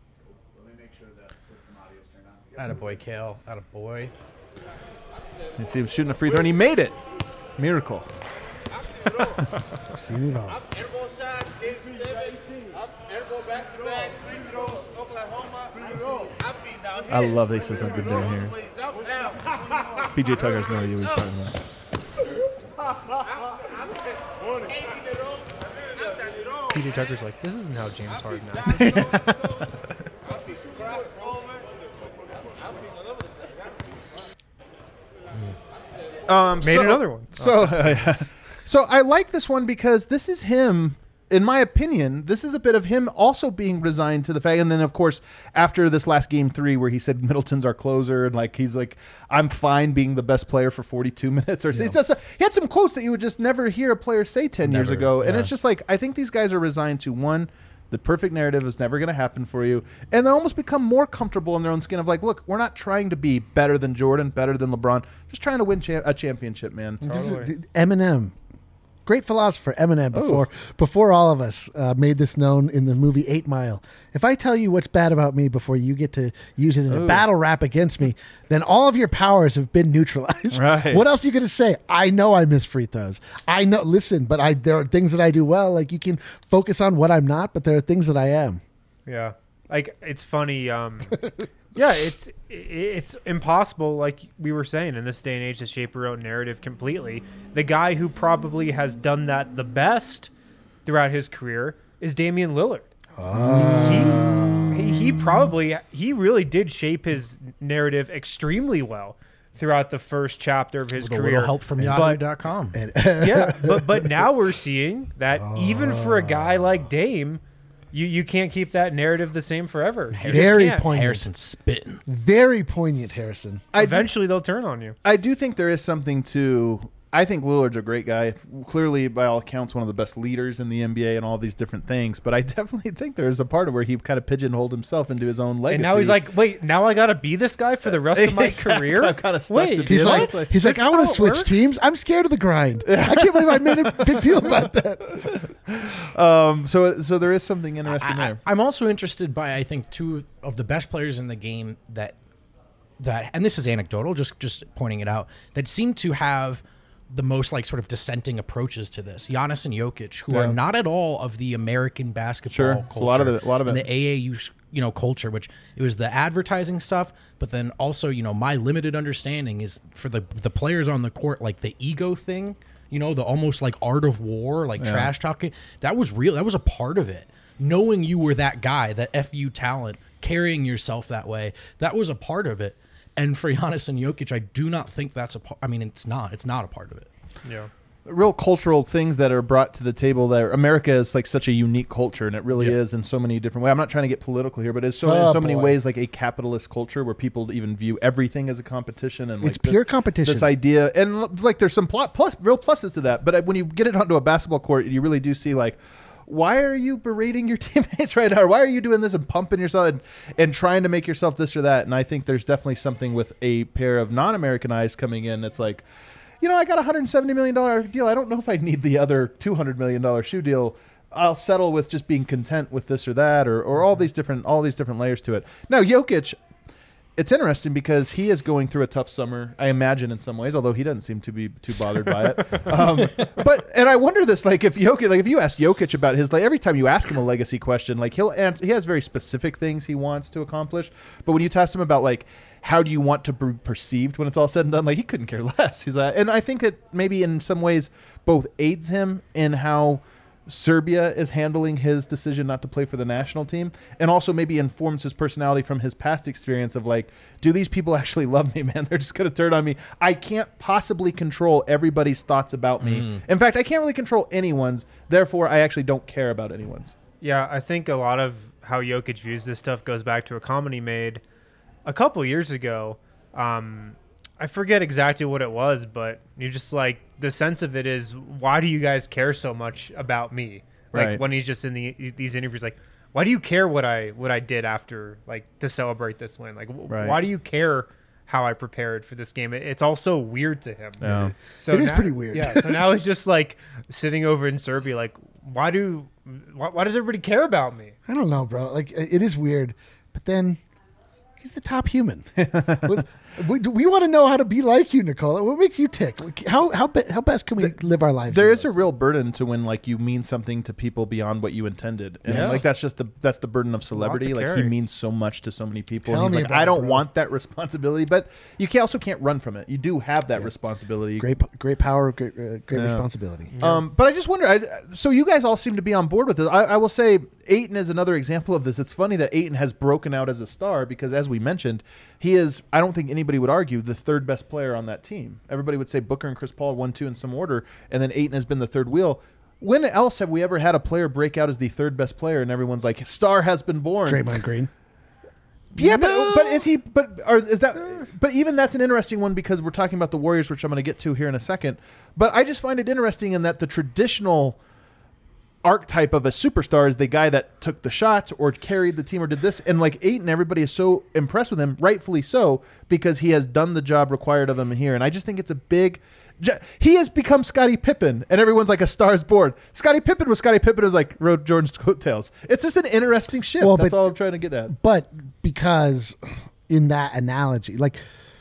Attaboy, Kale. Attaboy. You see him shooting a free throw, and he made it. Miracle. Seen it all. I love that he says I've been down here. P J Tucker's no idea what he's talking about. P J Tucker's like, this isn't how James Harden acts. Um, Made so, another one. So, so I like this one because this is him. In my opinion, this is a bit of him also being resigned to the fact. And then, of course, after this last game three, where he said Middleton's our closer, and like he's like, I'm fine being the best player for forty-two minutes. Or yeah. That's a, he had some quotes that you would just never hear a player say ten Never, years ago, and yeah. it's just like I think these guys are resigned to one. The perfect narrative is never going to happen for you. And they almost become more comfortable in their own skin of like, look, we're not trying to be better than Jordan, better than LeBron. Just trying to win cha- a championship, man. Totally. Eminem. Great philosopher, Eminem, before before all of us uh, made this known in the movie Eight Mile. If I tell you what's bad about me before you get to use it in Ooh. a battle rap against me, then all of your powers have been neutralized. Right. What else are you going to say? I know I miss free throws. I know. Listen, but I there are things that I do well. Like you can focus on what I'm not, but there are things that I am. Yeah, like it's funny. Um, yeah, it's it's impossible. Like we were saying, in this day and age, to shape your own narrative completely. The guy who probably has done that the best throughout his career is Damian Lillard. Oh. He, he he probably he really did shape his narrative extremely well throughout the first chapter of his With a career. little help from Yahoo dot com. Yeah, but but now we're seeing that even for a guy like Dame, you, you can't keep that narrative the same forever. You just Very can't. poignant. Harrison spitting. Very poignant, Harrison. I do, Eventually, they'll turn on you. I do think there is something to. I think Lillard's a great guy. Clearly, by all accounts, one of the best leaders in the N B A and all these different things. But I definitely think there is a part of where he kind of pigeonholed himself into his own legacy. And now he's like, wait, now I got to be this guy for the rest of my Exactly. career? I'm kinda stuck Wait, to be He's Yeah, like, that's- he's like, that's I want how to it switch works? teams. I'm scared of the grind. I can't believe I made a big deal about that. um, so so there is something interesting I, there. I, I'm also interested by I think two of the best players in the game that that and this is anecdotal, just just pointing it out, that seem to have the most like sort of dissenting approaches to this. Giannis and Jokic, who Yeah. are not at all of the American basketball Sure. culture, It's a lot of it- a lot of and it. the A A U you know culture, which it was the advertising stuff, but then also you know my limited understanding is for the the players on the court, like the ego thing, you know, the almost like art of war, like Yeah. trash talking. That was real. That was a part of it. Knowing you were that guy, that F U talent, carrying yourself that way, that was a part of it. And for Giannis and Jokic, I do not think that's a part. I mean, it's not. It's not a part of it. Yeah. Real cultural things that are brought to the table there. America is like such a unique culture, and it really Yeah. is in so many different ways. I'm not trying to get political here, but it's so Oh, in so many boy. ways like a capitalist culture where people even view everything as a competition, and like It's pure this, competition. This idea, and l- like there's some plot plus real pluses to that, but uh, when you get it onto a basketball court, you really do see like. Why are you berating your teammates right now? Or why are you doing this and pumping yourself and, and trying to make yourself this or that? And I think there's definitely something with a pair of non-American eyes coming in. It's like, you know, I got a one hundred seventy million dollars deal. I don't know if I need the other two hundred million dollars shoe deal. I'll settle with just being content with this or that, or, or all these different all these different layers to it. Now, Jokic, it's interesting because he is going through a tough summer, I imagine, in some ways, although he doesn't seem to be too bothered by it. Um, but and I wonder this, like if Jokic, like if you ask Jokic about his, like every time you ask him a legacy question, like he'll answer, he has very specific things he wants to accomplish. But when you ask him about like how do you want to be perceived when it's all said and done, like he couldn't care less. He's like, and I think that maybe in some ways both aids him in how Serbia is handling his decision not to play for the national team, and also maybe informs his personality from his past experience of like, do these people actually love me, man? They're just going to turn on me. I can't possibly control everybody's thoughts about me. Mm. In fact, I can't really control anyone's. Therefore, I actually don't care about anyone's. Yeah, I think a lot of how Jokic views this stuff goes back to a comment he made a couple years ago. Um, I forget exactly what it was, but you just like the sense of it is, why do you guys care so much about me? Like Right. when he's just in the these interviews, like, why do you care what I what I did after like to celebrate this win? Like, w- Right. why do you care how I prepared for this game? It, it's all so weird to him. Yeah. So It is now- pretty weird. Yeah. So now he's just like sitting over in Serbia, like, why do why, why does everybody care about me? I don't know, bro. Like it is weird, but then he's the top human. With- We, we want to know how to be like you, Nicola. What makes you tick? How how be, how best can we live our lives? There is a real burden to when like you mean something to people beyond what you intended, and Yes. like that's just the that's the burden of celebrity. Lots of Like he carry. means so much to so many people, Tell and me he's like, about I it, don't bro." want that responsibility, but you can also can't run from it. You do have that responsibility. great great power, great uh, great Yeah. responsibility. Um, but I just wonder. I, so you guys all seem to be on board with this. I, I will say, Ayton is another example of this. It's funny that Ayton has broken out as a star because, as we mentioned, he is. I don't think anybody would argue the third best player on that team. Everybody would say Booker and Chris Paul one, two in some order, and then Ayton has been the third wheel. When else have we ever had a player break out as the third best player and everyone's like, "Star has been born"? Draymond Green. Yeah, but but is he? But are is that? But even that's an interesting one because we're talking about the Warriors, which I'm going to get to here in a second. But I just find it interesting in that the traditional archetype of a superstar is the guy that took the shots or carried the team or did this, and like Ayton, everybody is so impressed with him, rightfully so, because he has done the job required of him here. And I just think it's a big. He has become Scottie Pippen, and everyone's like a star's board. Scottie Pippen was Scottie Pippen was like rode Jordan's coattails. It's just an interesting shift. Well, That's but- all I'm trying to get at. But because in that analogy, like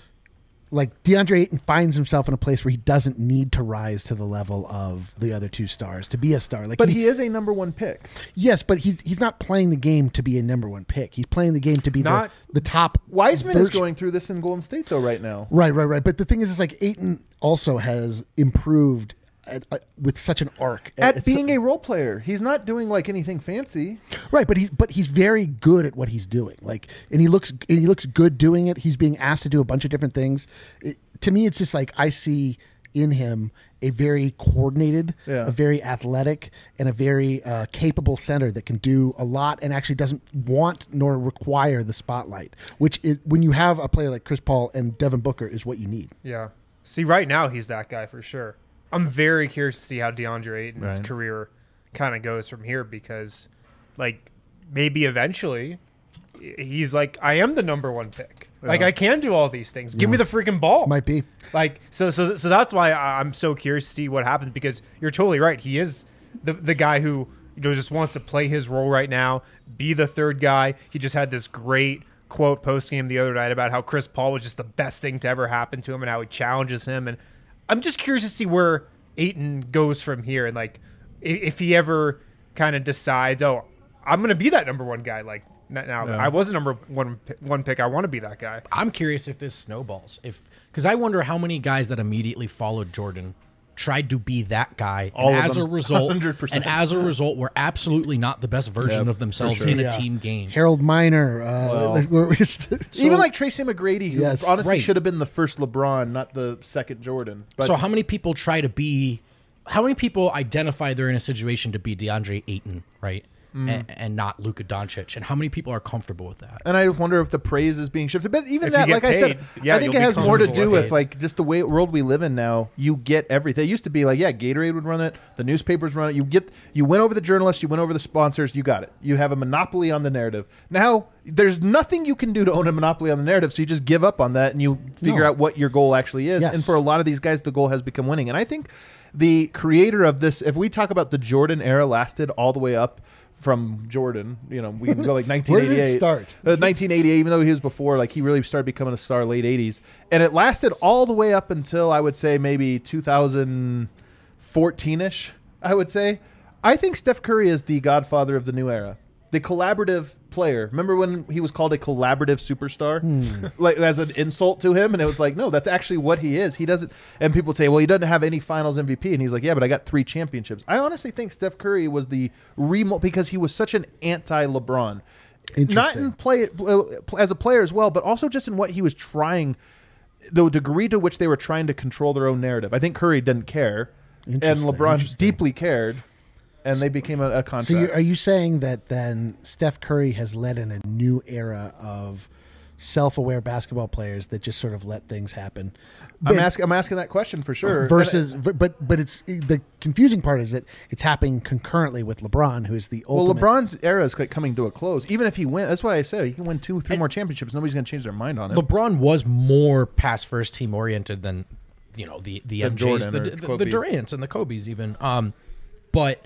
like DeAndre Ayton finds himself in a place where he doesn't need to rise to the level of the other two stars to be a star. Like But he is a number one pick. yes, but he's he's not playing the game to be a number one pick. He's playing the game to be Not- the, the top. Wiseman is version- going through this in Golden State though right now. Right, right, right. But the thing is, is like Ayton also has improved at, uh, with such an arc At It's- being a role player, he's not doing like anything fancy. right. But he's but he's very good at what he's doing. Like, and he looks and he looks good doing it. He's being asked to do a bunch of different things. It, to me, it's just like I see in him a very coordinated, Yeah. a very athletic, and a very uh, capable center that can do a lot and actually doesn't want nor require the spotlight. Which is, when you have a player like Chris Paul and Devin Booker, is what you need. Yeah. See, right now he's that guy for sure. I'm very curious to see how DeAndre Ayton's Right. career kind of goes from here because, like, maybe eventually he's like, I am the number one pick. Like, Yeah. I can do all these things. Give me the freaking ball. Might be. Like, so, so, so that's why I- I'm so curious to see what happens because you're totally right. He is the the guy who you know just wants to play his role right now, be the third guy. He just had this great quote post game the other night about how Chris Paul was just the best thing to ever happen to him and how he challenges him. And I'm just curious to see where Ayton goes from here and like i- if he ever kind of decides, oh, I'm gonna be that number one guy. Like n- now, Yeah. I was the number one pi- one pick. I want to be that guy. I'm curious if this snowballs. If because I wonder how many guys that immediately followed Jordan tried to be that guy, All and of as them. a result, one hundred percent. and as a result, were absolutely not the best version Yep, of themselves for sure. in a Yeah. team game. Harold Miner. Uh, Well. like, we're- we're just- Even like Tracy McGrady, who Yes, honestly right. should have been the first LeBron, not the second Jordan. But So how many people try to be? How many people identify they're in a situation to be DeAndre Ayton, right, Mm. and, and not Luka Doncic? And how many people are comfortable with that? And I wonder if the praise is being shifted. But even If that, you get like I said, paid, yeah, I think you'll it has be more to comfortable do with with it. like just the way world we live in now. You get everything. It used to be like, yeah, Gatorade would run it, the newspapers run it. You get, you win over the journalists, you win over the sponsors, you got it. You have a monopoly on the narrative. Now there's nothing you can do to own a monopoly on the narrative, so you just give up on that and you figure No. out what your goal actually is. Yes. And for a lot of these guys, the goal has become winning. And I think the creator of this, if we talk about the Jordan era, lasted all the way up from Jordan. You know, we can go like nineteen eighty-eight. Where did it start? Uh, nineteen eighty-eight, even though he was before, like he really started becoming a star late eighties. And it lasted all the way up until I would say maybe two thousand fourteen-ish, I would say. I think Steph Curry is the godfather of the new era. The collaborative player. Remember when he was called a collaborative superstar? Like as an insult to him, and it was like, no, that's actually what he is. He doesn't and people would say, well, he doesn't have any finals M V P. And he's like, yeah, but I got three championships. I honestly think Steph Curry was the remote because he was such an anti-LeBron. Not Interesting. in play uh, as a player as well, but also just in what he was trying, the degree to which they were trying to control their own narrative. I think Curry didn't care, and Interesting, LeBron interesting. deeply cared, and they became a, a contract. So you, are you saying that then Steph Curry has led in a new era of self-aware basketball players that just sort of let things happen? I'm But- asking. I'm asking that question for sure. Versus, but but it's the confusing part is that it's happening concurrently with LeBron, who is the well, ultimate. LeBron's era is like coming to a close. Even if he wins, that's what I said. He can win two, three more championships. Nobody's going to change their mind on it. LeBron was more pass first team oriented than you know the the Than M Js, Jordan the, or the, the Kobe. Durants and the Kobe's even. Um, but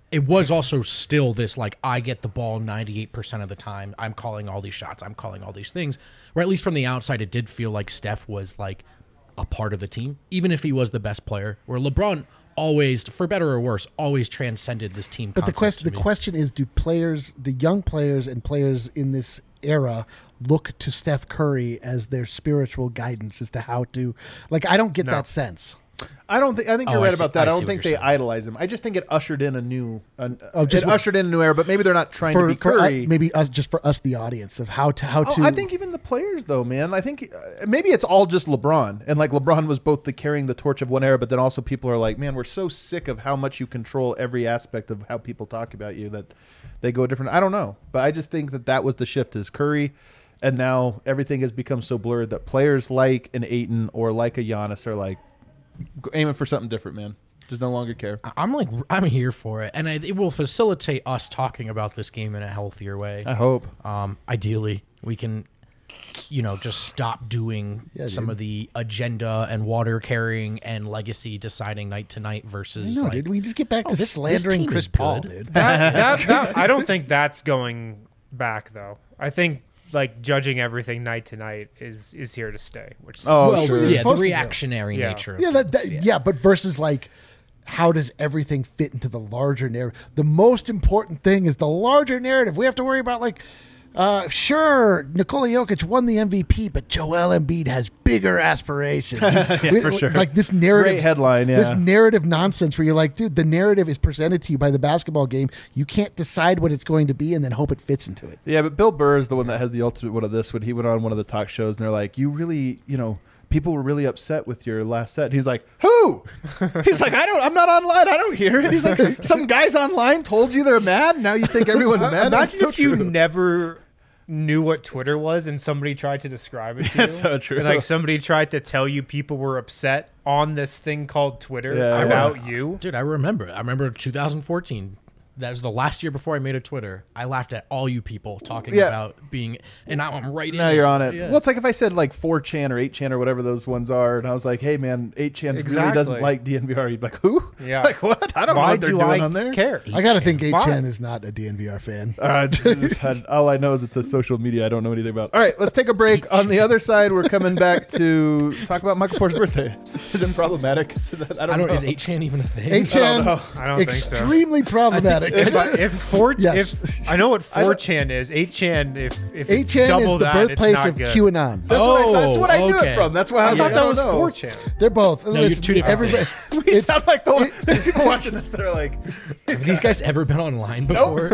it was also still this, like, I get the ball ninety-eight percent of the time. I'm calling all these shots. I'm calling all these things. Where at least from the outside, it did feel like Steph was, like, a part of the team, even if he was the best player. Where LeBron always, for better or worse, always transcended this team. But the question, the question is, do players, the young players and players in this era, look to Steph Curry as their spiritual guidance as to how to, like, I don't get No. that sense. I don't think. I think Oh, you're I right see- about that. I I, see don't what think you're they saying. idolize him. I just think it ushered in a new. An, Oh, just it what- ushered in a new era. But maybe they're not trying For, to be for uh, Curry. maybe us, just for us, the audience, of how to how Oh, to. I think even the players, though, man. I think uh, maybe it's all just LeBron, and like LeBron was both the carrying the torch of one era, but then also people are like, man, we're so sick of how much you control every aspect of how people talk about you that they go different. I don't know, but I just think that that was the shift is Curry, and now everything has become so blurred that players like an Ayton or like a Giannis are like aiming for something different, man. Just no longer care. I'm like, I'm here for it. And I, it will facilitate us talking about this game in a healthier way. I hope. Um, ideally, we can, you know, just stop doing Yeah, some dude. of the agenda and water carrying and legacy deciding night to night versus no, like, dude, we just get back oh, to this- this slandering team Chris is Paul, good. dude. That, that, that, I don't think that's going back, though. I think like judging everything night to night is is here to stay. Which Oh, Well, sure. You're yeah, the supposed to do. reactionary Yeah. nature. Of Yeah, that, things, that yeah. but versus like, how does everything fit into the larger narrative? The most important thing is the larger narrative. We have to worry about like, uh, sure, Nikola Jokic won the M V P, but Joel Embiid has bigger aspirations. yeah, for sure. Like this narrative Great headline, This yeah. narrative nonsense where you're like, dude, the narrative is presented to you by the basketball game. You can't decide what it's going to be and then hope it fits into it. Yeah, but Bill Burr is the one that has the ultimate one of this. When he went on one of the talk shows, and they're like, "You really, you know, people were really upset with your last set." And he's like, "Who?" He's like, "I don't. I'm not online. I don't hear it." He's like, "Some guys online told you they're mad. Now you think everyone's mad." That's Imagine so if you true. never knew what Twitter was and somebody tried to describe it to you. That's so true. And like somebody tried to tell you people were upset on this thing called Twitter Yeah, about you. Dude, I remember. I remember two thousand fourteen. That was the last year before I made a Twitter. I laughed at all you people talking Yeah. about being, and now I'm right in Now it. you're on it. Yeah. Well, it's like if I said like four chan or eight chan or whatever those ones are, and I was like, "Hey, man, eight chan really Exactly. doesn't like D N V R." You'd be like, "Who?" Yeah. Like what? I don't know Why what they're do doing I on there. care? I got to think Why? eight chan is not a D N V R fan. Uh, all I know is it's a social media I don't know anything about. All right, let's take a break. On the other side, we're coming back to talk about Michael Porter's birthday. Is it problematic? Is that- I I don't, don't. know. Is eight chan even a thing? eight chan, know. I don't think so. extremely problematic. If, I- if four, Yes. if I know what four chan is, eight chan. If if eight it's chan double is the that, birthplace it's not of good. QAnon. That's, what I, that's Oh, what I knew okay. it from. That's why I I was thought like, that I was don't know. four chan. They're both. you're two different everybody, We it's- sound like the there's people watching this that are like, Have these guys ever been online before?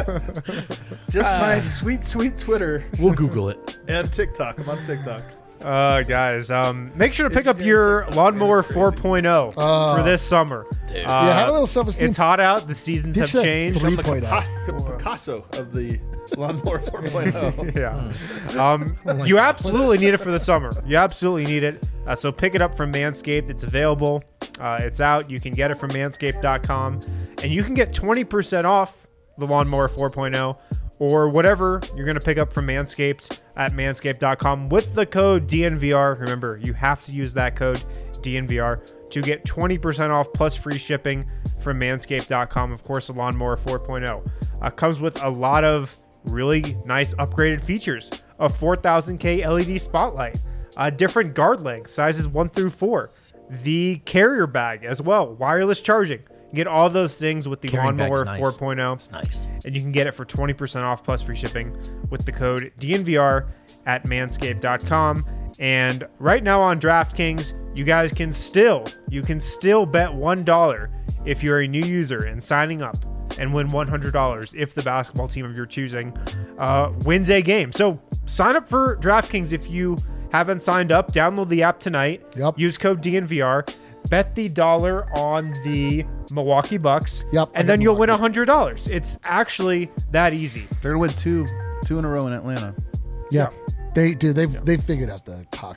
just Uh, my sweet, sweet Twitter We'll Google it. and TikTok. I'm on TikTok. Uh, guys, um, make sure to pick up your Lawnmower four point oh for this summer. Uh, Yeah, have a little self-esteem. It's hot out. The seasons have Ditch that changed. three I'm the point oh. Picasso, Picasso of the Lawnmower four point oh. Yeah. Um, you absolutely need it for the summer. You absolutely need it. Uh, so pick it up from Manscaped. It's available. Uh, it's out. You can get it from manscaped dot com. And you can get twenty percent off the Lawnmower four point oh or whatever you're going to pick up from Manscaped at manscaped dot com with the code D N V R. Remember, you have to use that code D N V R to get twenty percent off plus free shipping from manscaped dot com. Of course, the Lawnmower four point oh uh, comes with a lot of really nice upgraded features. A four thousand K L E D spotlight, uh, different guard length, sizes one through four, the carrier bag as well, wireless charging. You get all those things with the Carrying bag's Lawnmower nice. four point oh. It's nice. And you can get it for twenty percent off plus free shipping with the code D N V R at manscaped dot com. And right now on DraftKings, you guys can still, you can still bet one dollar if you're a new user and signing up and win one hundred dollars if the basketball team of your choosing uh, wins a game. So sign up for DraftKings if you haven't signed up. Download the app tonight. Yep. Use code D N V R. Bet the dollar on the Milwaukee Bucks. Yep, I And then did you'll win Milwaukee. one hundred dollars. It's actually that easy. They're gonna win two, two in a row in Atlanta. Yeah, they do. They've they've figured out the Hawks. Yeah.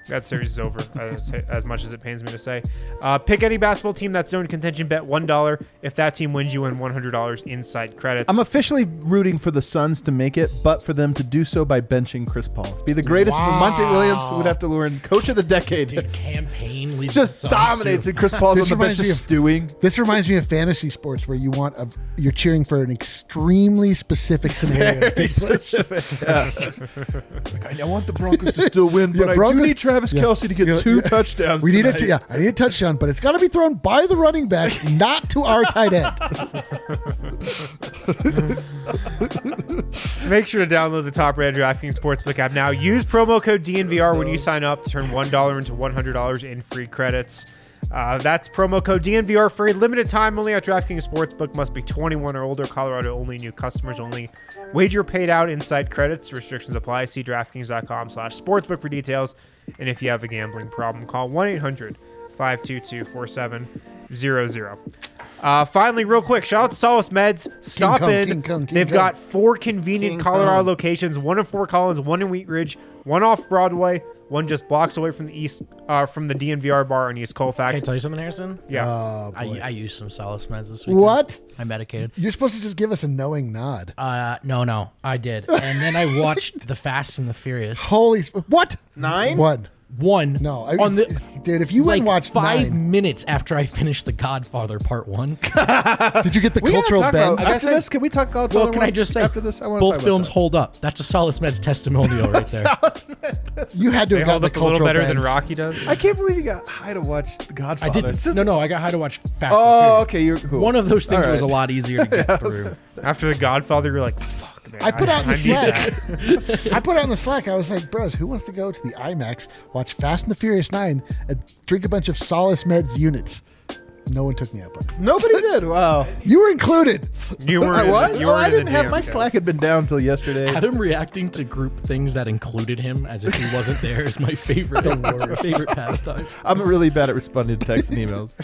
That series is over, as, as much as it pains me to say. Uh, pick any basketball team that's known contention. Bet one dollar. If that team wins, you win one hundred dollars inside credits. I'm officially rooting for the Suns to make it, but for them to do so by benching Chris Paul. Be the greatest. Wow. Monte Williams would have to learn coach of the decade. Dude, campaign leads Just the Suns dominates, to- and Chris Paul's This on the bench reminds me just of- stewing. This reminds me of fantasy sports where you want a, you're cheering for an extremely specific scenario. to take place. Like, I want the Broncos to still win, but Yeah, I Broncos- do need Travis yeah. Kelce to get Yeah, two yeah. touchdowns. We need a tonight. t- yeah, I need a touchdown, but it's got to be thrown by the running back, not to our tight end. Make sure to download the top-rated DraftKings Sportsbook app now. Use promo code D N V R when you sign up to turn one dollar into one hundred dollars in free credits. Uh, that's promo code D N V R for a limited time only at DraftKings Sportsbook. Must be twenty-one or older. Colorado only. New customers only. Wager paid out inside credits. Restrictions apply. See DraftKings.com slash sportsbook for details. And if you have a gambling problem, call one eight hundred five two two four seven zero zero. Uh, finally, real quick, shout out to Solace Meds. Stop Kong, in. King Kong, King They've Kong. got four convenient King Colorado Kong. locations, one in Fort Collins, one in Wheat Ridge, one off Broadway, one just blocks away from the east, uh, from the D N V R bar on East Can I Colfax. tell you something, Harrison? Yeah. Oh, I, boy. I used some Solace meds this week. What? I medicated. You're supposed to just give us a knowing nod. Uh, no, no, I did. And then I watched The Fast and the Furious. Holy sp- what? Nine? One. One. No, I, on the dude. If you like went and watched five nine, minutes after I finished The Godfather Part One. did you get the We gotta cultural talk bend? about- after this, can we talk Godfather Well, can one I just say, after this? I wanna talk both about films that. hold up. That's a Solace Meds testimonial right there. You had to They have gotten hold the up a little cultural better than bends. Rocky does. I can't believe you got high to watch The Godfather. I didn't. It's just- No, no, I got high to watch Fast Oh, and Furious. okay. You're cool. One of those things All was a right. lot easier to get through. After The Godfather, you're like, fuck, man. I put out in the need Slack. that. I put out in the Slack. I was like, bros, who wants to go to the IMAX, watch Fast and the Furious Nine, and drink a bunch of Solace Meds units? No one took me up on it. Nobody did. Wow. You were included. You were. I in the- was. You Oh, were I in the didn't have D M my code. Slack had been down until yesterday. Adam reacting to group things that included him as if he wasn't there is my favorite, my favorite pastime. I'm really bad at responding to texts and emails.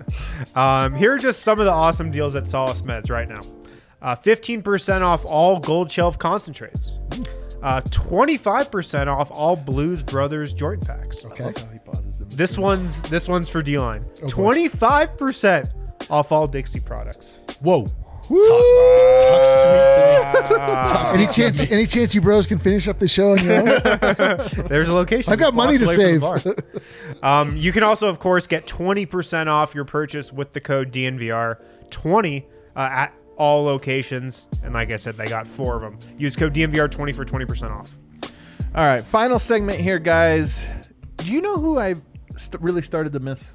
Um, here are just some of the awesome deals at Solace Meds right now. Uh, fifteen percent off all Gold Shelf concentrates. Uh, twenty-five percent off all Blues Brothers joint packs. Okay. This one's this one's for D-Line. twenty-five percent off all Dixie products. Whoa. Woo! Tuck sweets in it. Any chance? Any chance you bros can finish up the show on your own? There's a location. I've got blocks money to away from save. the bar. um, you can also, of course, get twenty percent off your purchase with the code D N V R twenty uh, at all locations. And like I said, they got four of them. Use code D N V R twenty for twenty percent off. All right, final segment here, guys. Do you know who I st- really started to miss?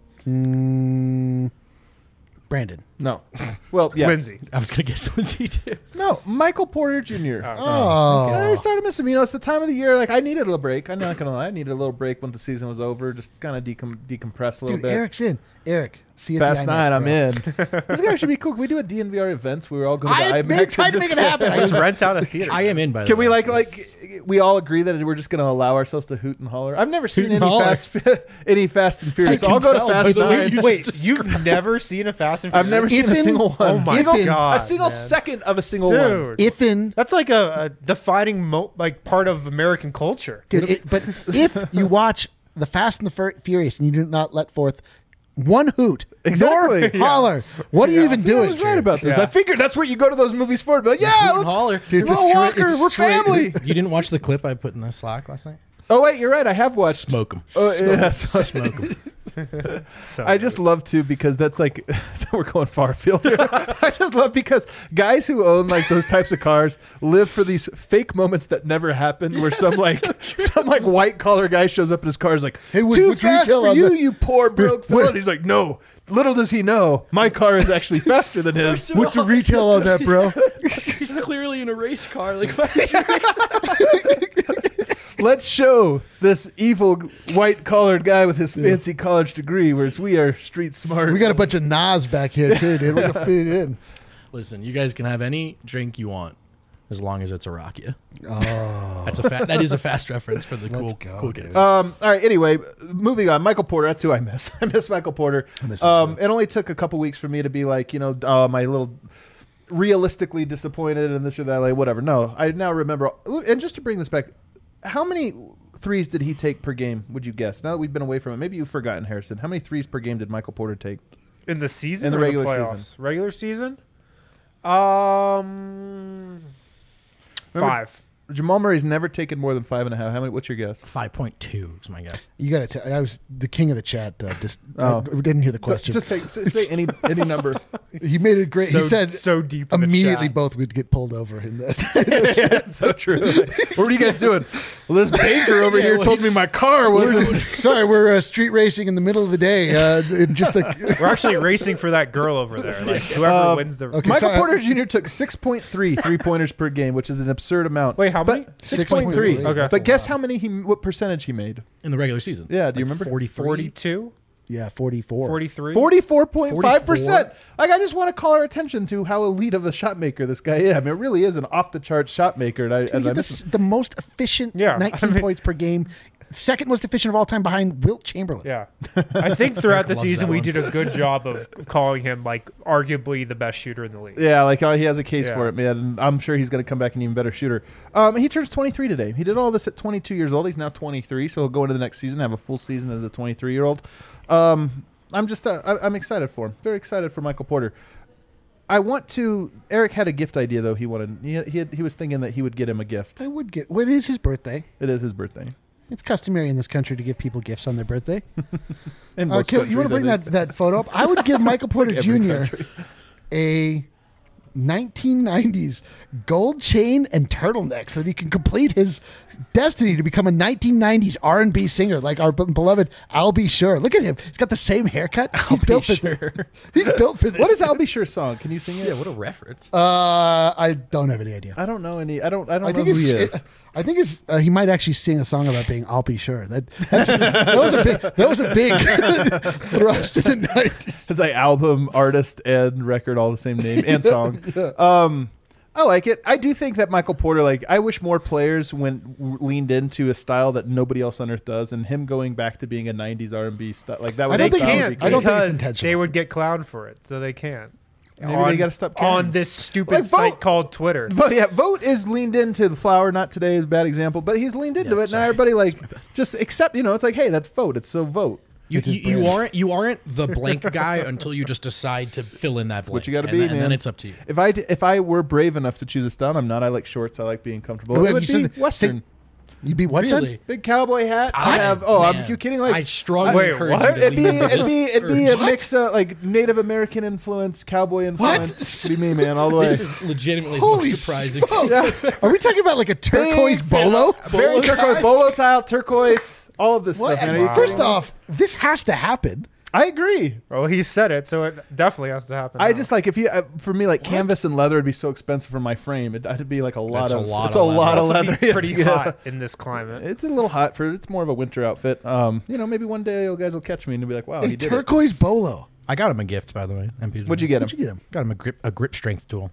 Mm, Brandon. No. Well, yes. Lindsay. I was gonna guess Lindsay too. No, Michael Porter Junior Oh. Yeah, I started missing him. You know, it's the time of the year. Like, I needed a break. I'm not gonna lie. I needed a little break when the season was over. Just kind of decom- decompress a little Dude, bit. Eric's in. Eric, see you at Fast the night, IMAX, I'm bro. in. This guy should be cool. Can we do a D N V R events where we all go to the I IMAX? made- and tried to just- make it happen. I Let's rent out a theater. I am in by the Can way. we like like we all agree that we're just going to allow ourselves to hoot and holler? I've never seen Hoot and any holler. fast any Fast and Furious. I So I'll can go to tell by Fast the way Nine. you Wait, just You've never seen a Fast and I've never Furious? seen a If in- single one. Oh my Single- God, A single man. second of a single one. Dude. If in, That's like a, a defining mo- like part of American culture. dude, it, but if you watch the Fast and the Fur- Furious and you do not let forth one hoot, Exactly. nor holler, what are you even See, I doing? was right about this. Yeah. I figured that's what you go to those movies for. Be like, yeah, Hoot and let's holler. Dude, it's Will a straight- Walker, it's we're straight- family. You didn't watch the clip I put in the Slack last night? Oh wait, you're right. I have watched. Smoke them. Oh, yeah, Smoke them. So I just love to because that's like so we're going far afield here. I just love because guys who own like those types of cars live for these fake moments that never happen. Where some like some like white collar guy shows up in his car is like, Hey, what- too what's fast retail for on you, that?" you poor broke Wait. fella. And he's like, no. Little does he know, my car is actually faster than his. What's the retail on that, bro? He's clearly in a race car. Like, why did you race Let's show this evil white collared guy with his fancy college degree, whereas we are street smart. We got a bunch of Nas back here too, dude. We're gonna fit it in. Listen, you guys can have any drink you want as long as it's a Rakia. Oh, that's a fa- that is a fast reference for the cool go, cool dude. kids. Um, all right. Anyway, moving on. Michael Porter. That's who I miss. I miss Michael Porter. miss him um, too. it only took a couple weeks for me to be like, you know, uh, my little realistically disappointed and this or that, like whatever. No, I now remember. And just to bring this back, how many threes did he take per game, would you guess? Now that we've been away from it, maybe you've forgotten, Harrison. How many threes per game did Michael Porter take? In the season In the or regular the playoffs? season. Regular season? Um, Remember- five. Jamal Murray's never taken more than five and a half. How many? What's your guess? five point two is my guess. You got to. I was the king of the chat. Uh, just Oh. I didn't hear the question. Just take say say any any number. he made it great. So, he said so deep in the immediately chat. both would get pulled over in that. Yeah, so true. What were you guys doing? Well, this banker over Yeah, here well, told he- me my car wasn't. Sorry, we're uh, street racing in the middle of the day. Uh, in just a, We're actually racing for that girl over there. Like whoever Uh, wins the. okay. Michael sorry. Porter Junior took six point three three pointers per game, which is an absurd amount. Wait, how But many? six point three. Okay. But guess how many he what percentage he made? In the regular season. Yeah, do you Like remember? forty-three? forty-two? yeah, forty-four. forty-three? Forty-four point five percent. forty-four? Like I just want to call our attention to how elite of a shot maker this guy is. I mean, it really is an off the chart shot maker. And I, He and I had miss the, him. the most efficient Yeah, nineteen I mean- points per game. Second most efficient of all time behind Wilt Chamberlain. Yeah. I think throughout Eric the loves season that we one. did a good job of calling him like arguably the best shooter in the league. Yeah, like uh, he has a case Yeah. for it, man. And I'm sure he's going to come back an even better shooter. Um, he turns twenty-three today. He did all this at twenty-two years old. He's now twenty-three, so he'll go into the next season have a full season as a twenty-three year old. Um, I'm just uh, I, I'm excited for him. Very excited for Michael Porter. I want to. Eric had a gift idea though. He wanted. He he, had, he was thinking that he would get him a gift. I would get. What is his birthday? It is his birthday. It's customary in this country to give people gifts on their birthday. In Uh, most Kil, you want to countries, bring I that, think. that photo up? I would give Michael Porter Every Junior country. a nineteen nineties gold chain and turtleneck so that he can complete his destiny to become a nineteen nineties R and B singer like our be- beloved I'll Be Sure. Look at him. He's got the same haircut. He's built for this. He's built for this. What is I'll Be Sure song? Can you sing it? Yeah, what a reference. Uh, I don't have any idea. I don't know any. I don't. I don't I know think who it's, he is. it- I think it's uh, he might actually sing a song about being I'll Be Sure. That that's, that was a big that was a big thrust in the nineties. It's like album, artist, and record all the same name and song. Um, I like it. I do think that Michael Porter, like, I wish more players went leaned into a style that nobody else on earth does, and him going back to being a nineties R and B style like that. Would I don't that think would he- be I great. don't think it's Because intentional. they would get clowned for it, so they can't. Maybe on, they gotta stop caring. on this stupid Like, vote- site called Twitter. But yeah, Vote is leaned into the flower. Not today is a bad example, but he's leaned into Yeah, it. Now sorry. everybody like just accept. You know, it's like, hey, that's Vote. It's so Vote. You, It's his you, you brand. aren't you aren't the blank guy until you just decide to fill in that blank. What you got to and be, then, man. And then it's up to you. If I d- if I were brave enough to choose a style, I'm not. I like shorts. I like being comfortable. Wait, it would you be said- Western. You'd be what? son? Really? Big cowboy hat. I What? have. Oh, I'm Man, you kidding? Like I strongly Wait, encourage what? you to It'd be lean into it'd this be it'd be a urge. mix of like Native American influence, cowboy influence. Be me, man, all the way. This is legitimately the Holy most surprising. smokes. Are we talking about like a turquoise Big, bolo? Very Bolo turquoise, tie? bolo tile, turquoise, all of this What? stuff, man. Are you First kidding me? off, this has to happen. I agree. Well, he said it, so it definitely has to happen. I now. just like if you uh, for me like canvas and leather would be so expensive for my frame. It'd, it'd be like a lot That's a of lot it's of a lot leather. of Also leather. be you have pretty to get. hot in this climate. It's a little hot for it's more of a winter outfit. Um, you know, maybe one day you guys will catch me and you'll be like, wow, A he did it. turquoise bolo. I got him a gift, by the way. M P G. What'd you get him? What'd you get him? Got him a grip a grip strength tool.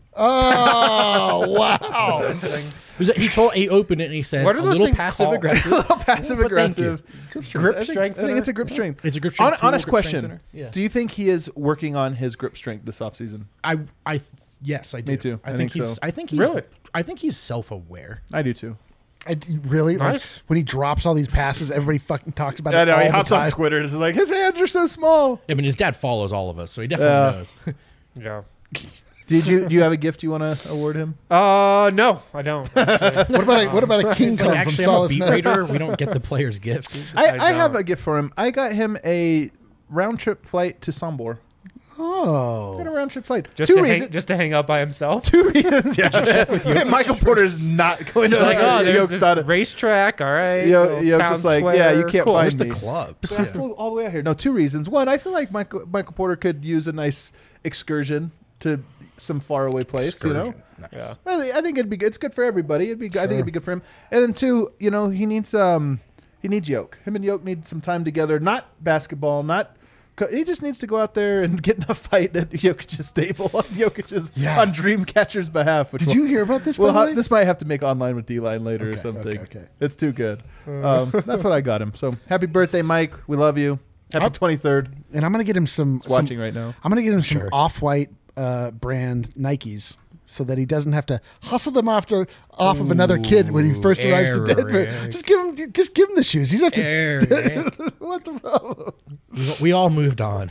Oh, wow. Those things. It was- He told he opened it and he said What are a those little things passive called? aggressive. A little passive But thank you. aggressive. Grip I think- strength I think thinner? it's a grip strength. It's a grip Hon- strength tool, honest grip strength question. thinner. Yeah. Do you think he is working on his grip strength this offseason? I I yes I do. Me too. I, I think, think he's so. I think he's Really? I think he's self aware. I do too. I, really? Like, Nice. when he drops all these passes, everybody fucking talks about I it know. all He the hops time. on Twitter and is like, his hands are so small. I mean, his dad follows all of us, so he definitely Yeah. knows. Yeah. Did you do you have a gift you want to award him? Uh, no, I don't. actually. What about a, what about a King It's Kong like, from actually, I'm a Solace beat Net? raider. We don't get the player's gifts. I, I I have don't. a gift for him. I got him a round trip flight to Sombor. I got a Oh. round trip flight. Just Two to reasons. hang, just to hang out by himself. Two reasons. Yeah. Michael Porter's not going to It's like, oh, there's Yoke's this not a- racetrack. All right. Yo- little Yoke's town just like, square, yeah, you can't cool. find Where's the me. clubs? I flew all the way out here. No, two reasons. One, I feel like Michael Michael Porter could use a nice excursion to some faraway place. You know, Nice. Yeah. I think, I think it'd be good. It's good for everybody. It'd be. Good. I think it'd be good for him. And then two, you know, he needs um he needs Yoke. Him and Yoke need some time together. Not basketball. Not. co- He just needs to go out there and get in a fight at Jokic's stable on Jokic's Yeah. on Dreamcatcher's behalf. Which Did will- you hear about this? Well, by the ha- way? this might have to make online with D-Line later or Okay, something. okay, okay. It's too good. Um, that's what I got him. So happy birthday, Mike. We love you. Happy I'll- twenty-third. and I'm gonna get him some. He's some watching right now. I'm gonna get him some Sure. off-white uh, brand Nikes so that he doesn't have to hustle them after off of another kid when he first arrives to Denver. Eric. Just give him, just give him the shoes. You don't have to. Eric. What the problem? We, we all moved on.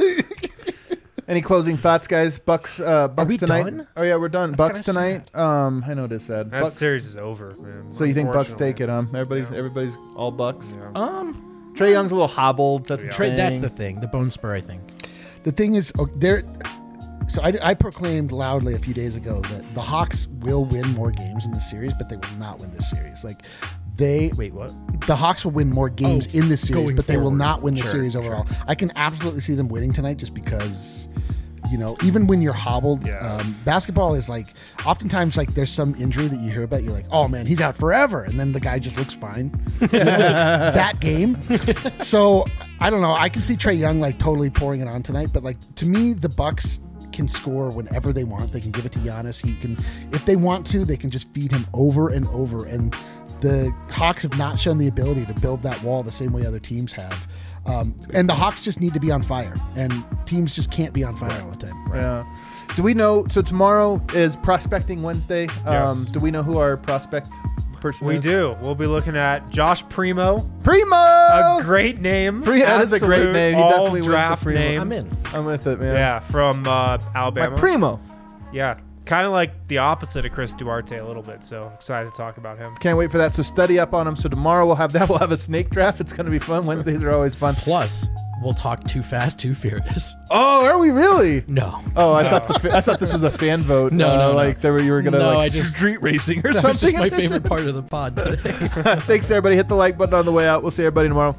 Any closing thoughts, guys? Bucks, uh, Bucks we tonight. done? Oh yeah, we're done. That's Bucks kinda tonight. Um, I know this sad. That Bucks- series is over, man. so you think Bucks Unfortunately. take it? Um, everybody's Yeah. everybody's all Bucks. Yeah. Um, Trey Young's a little hobbled. That's the Trey, thing. that's the thing. The bone spur, I think. The thing is, oh, there. So I, I proclaimed loudly a few days ago that the Hawks will win more games in this series, but they will not win this series. Like they Wait, what? the Hawks will win more games Oh, in this series, going but they will forward. not win the Sure, series overall. I can absolutely see them winning tonight just because, you know, even when you're hobbled, Yeah. um, basketball is like, oftentimes like there's some injury that you hear about, you're like, oh man, he's out forever. And then the guy just looks fine. You know, like, that game. So I don't know. I can see Trey Young like totally pouring it on tonight, but like to me, the Bucks can score whenever they want. They can give it to Giannis. He can, if they want to, they can just feed him over and over. And the Hawks have not shown the ability to build that wall the same way other teams have. Um, and the Hawks just need to be on fire, and teams just can't be on fire all the time. Yeah. Do we know? So tomorrow is Prospecting Wednesday. Um, Yes. Do we know who our prospect person We is? do. We'll be looking at Josh Primo. Primo. A great name. Pre- that is a great Absolute name. He all definitely wins the draft Primo. name. I'm in. I'm with it, man. Yeah, from uh, Alabama. My Primo. Yeah, kind of like the opposite of Chris Duarte a little bit. So excited to talk about him. Can't wait for that. So study up on him. So tomorrow we'll have that. We'll have a snake draft. It's going to be fun. Wednesdays are always fun. Plus, we'll talk Too Fast, Too Furious. Oh, are we really? No. Oh, I thought this, I thought this was a fan vote. No, uh, no, no. like there were, you were gonna No, like I just- street racing or That was something. just my favorite part of the pod today. Thanks everybody. Hit the like button on the way out. We'll see everybody tomorrow.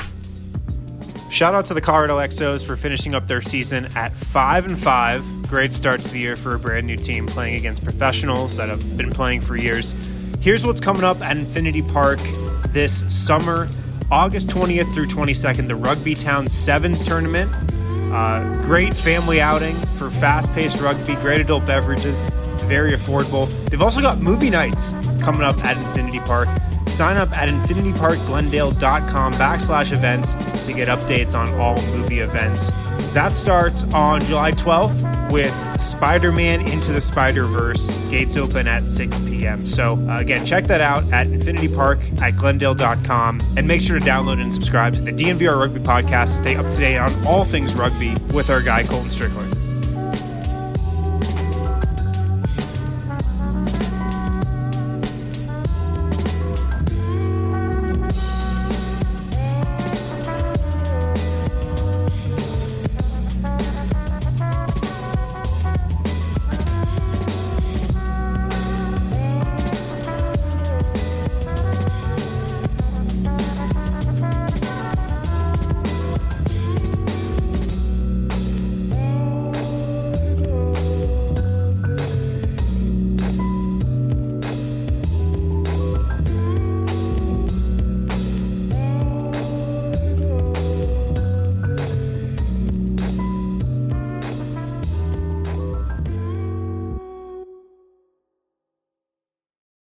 Shout out to the Colorado X Os for finishing up their season at five and five. Great start to the year for a brand new team playing against professionals that have been playing for years. Here's what's coming up at Infinity Park this summer, August twentieth through twenty-second, the Rugby Town Sevens tournament. Uh, great family outing for fast-paced rugby, great adult beverages. It's very affordable. They've also got movie nights coming up at Infinity Park. Sign up at infinityparkglendale.com backslash events to get updates on all movie events. That starts on July twelfth with Spider-Man Into the Spider-Verse. Gates open at six p.m. So uh, again, check that out at infinitypark at glendale dot com, and make sure to download and subscribe to the D N V R Rugby Podcast to stay up to date on all things rugby with our guy Colton Strickland.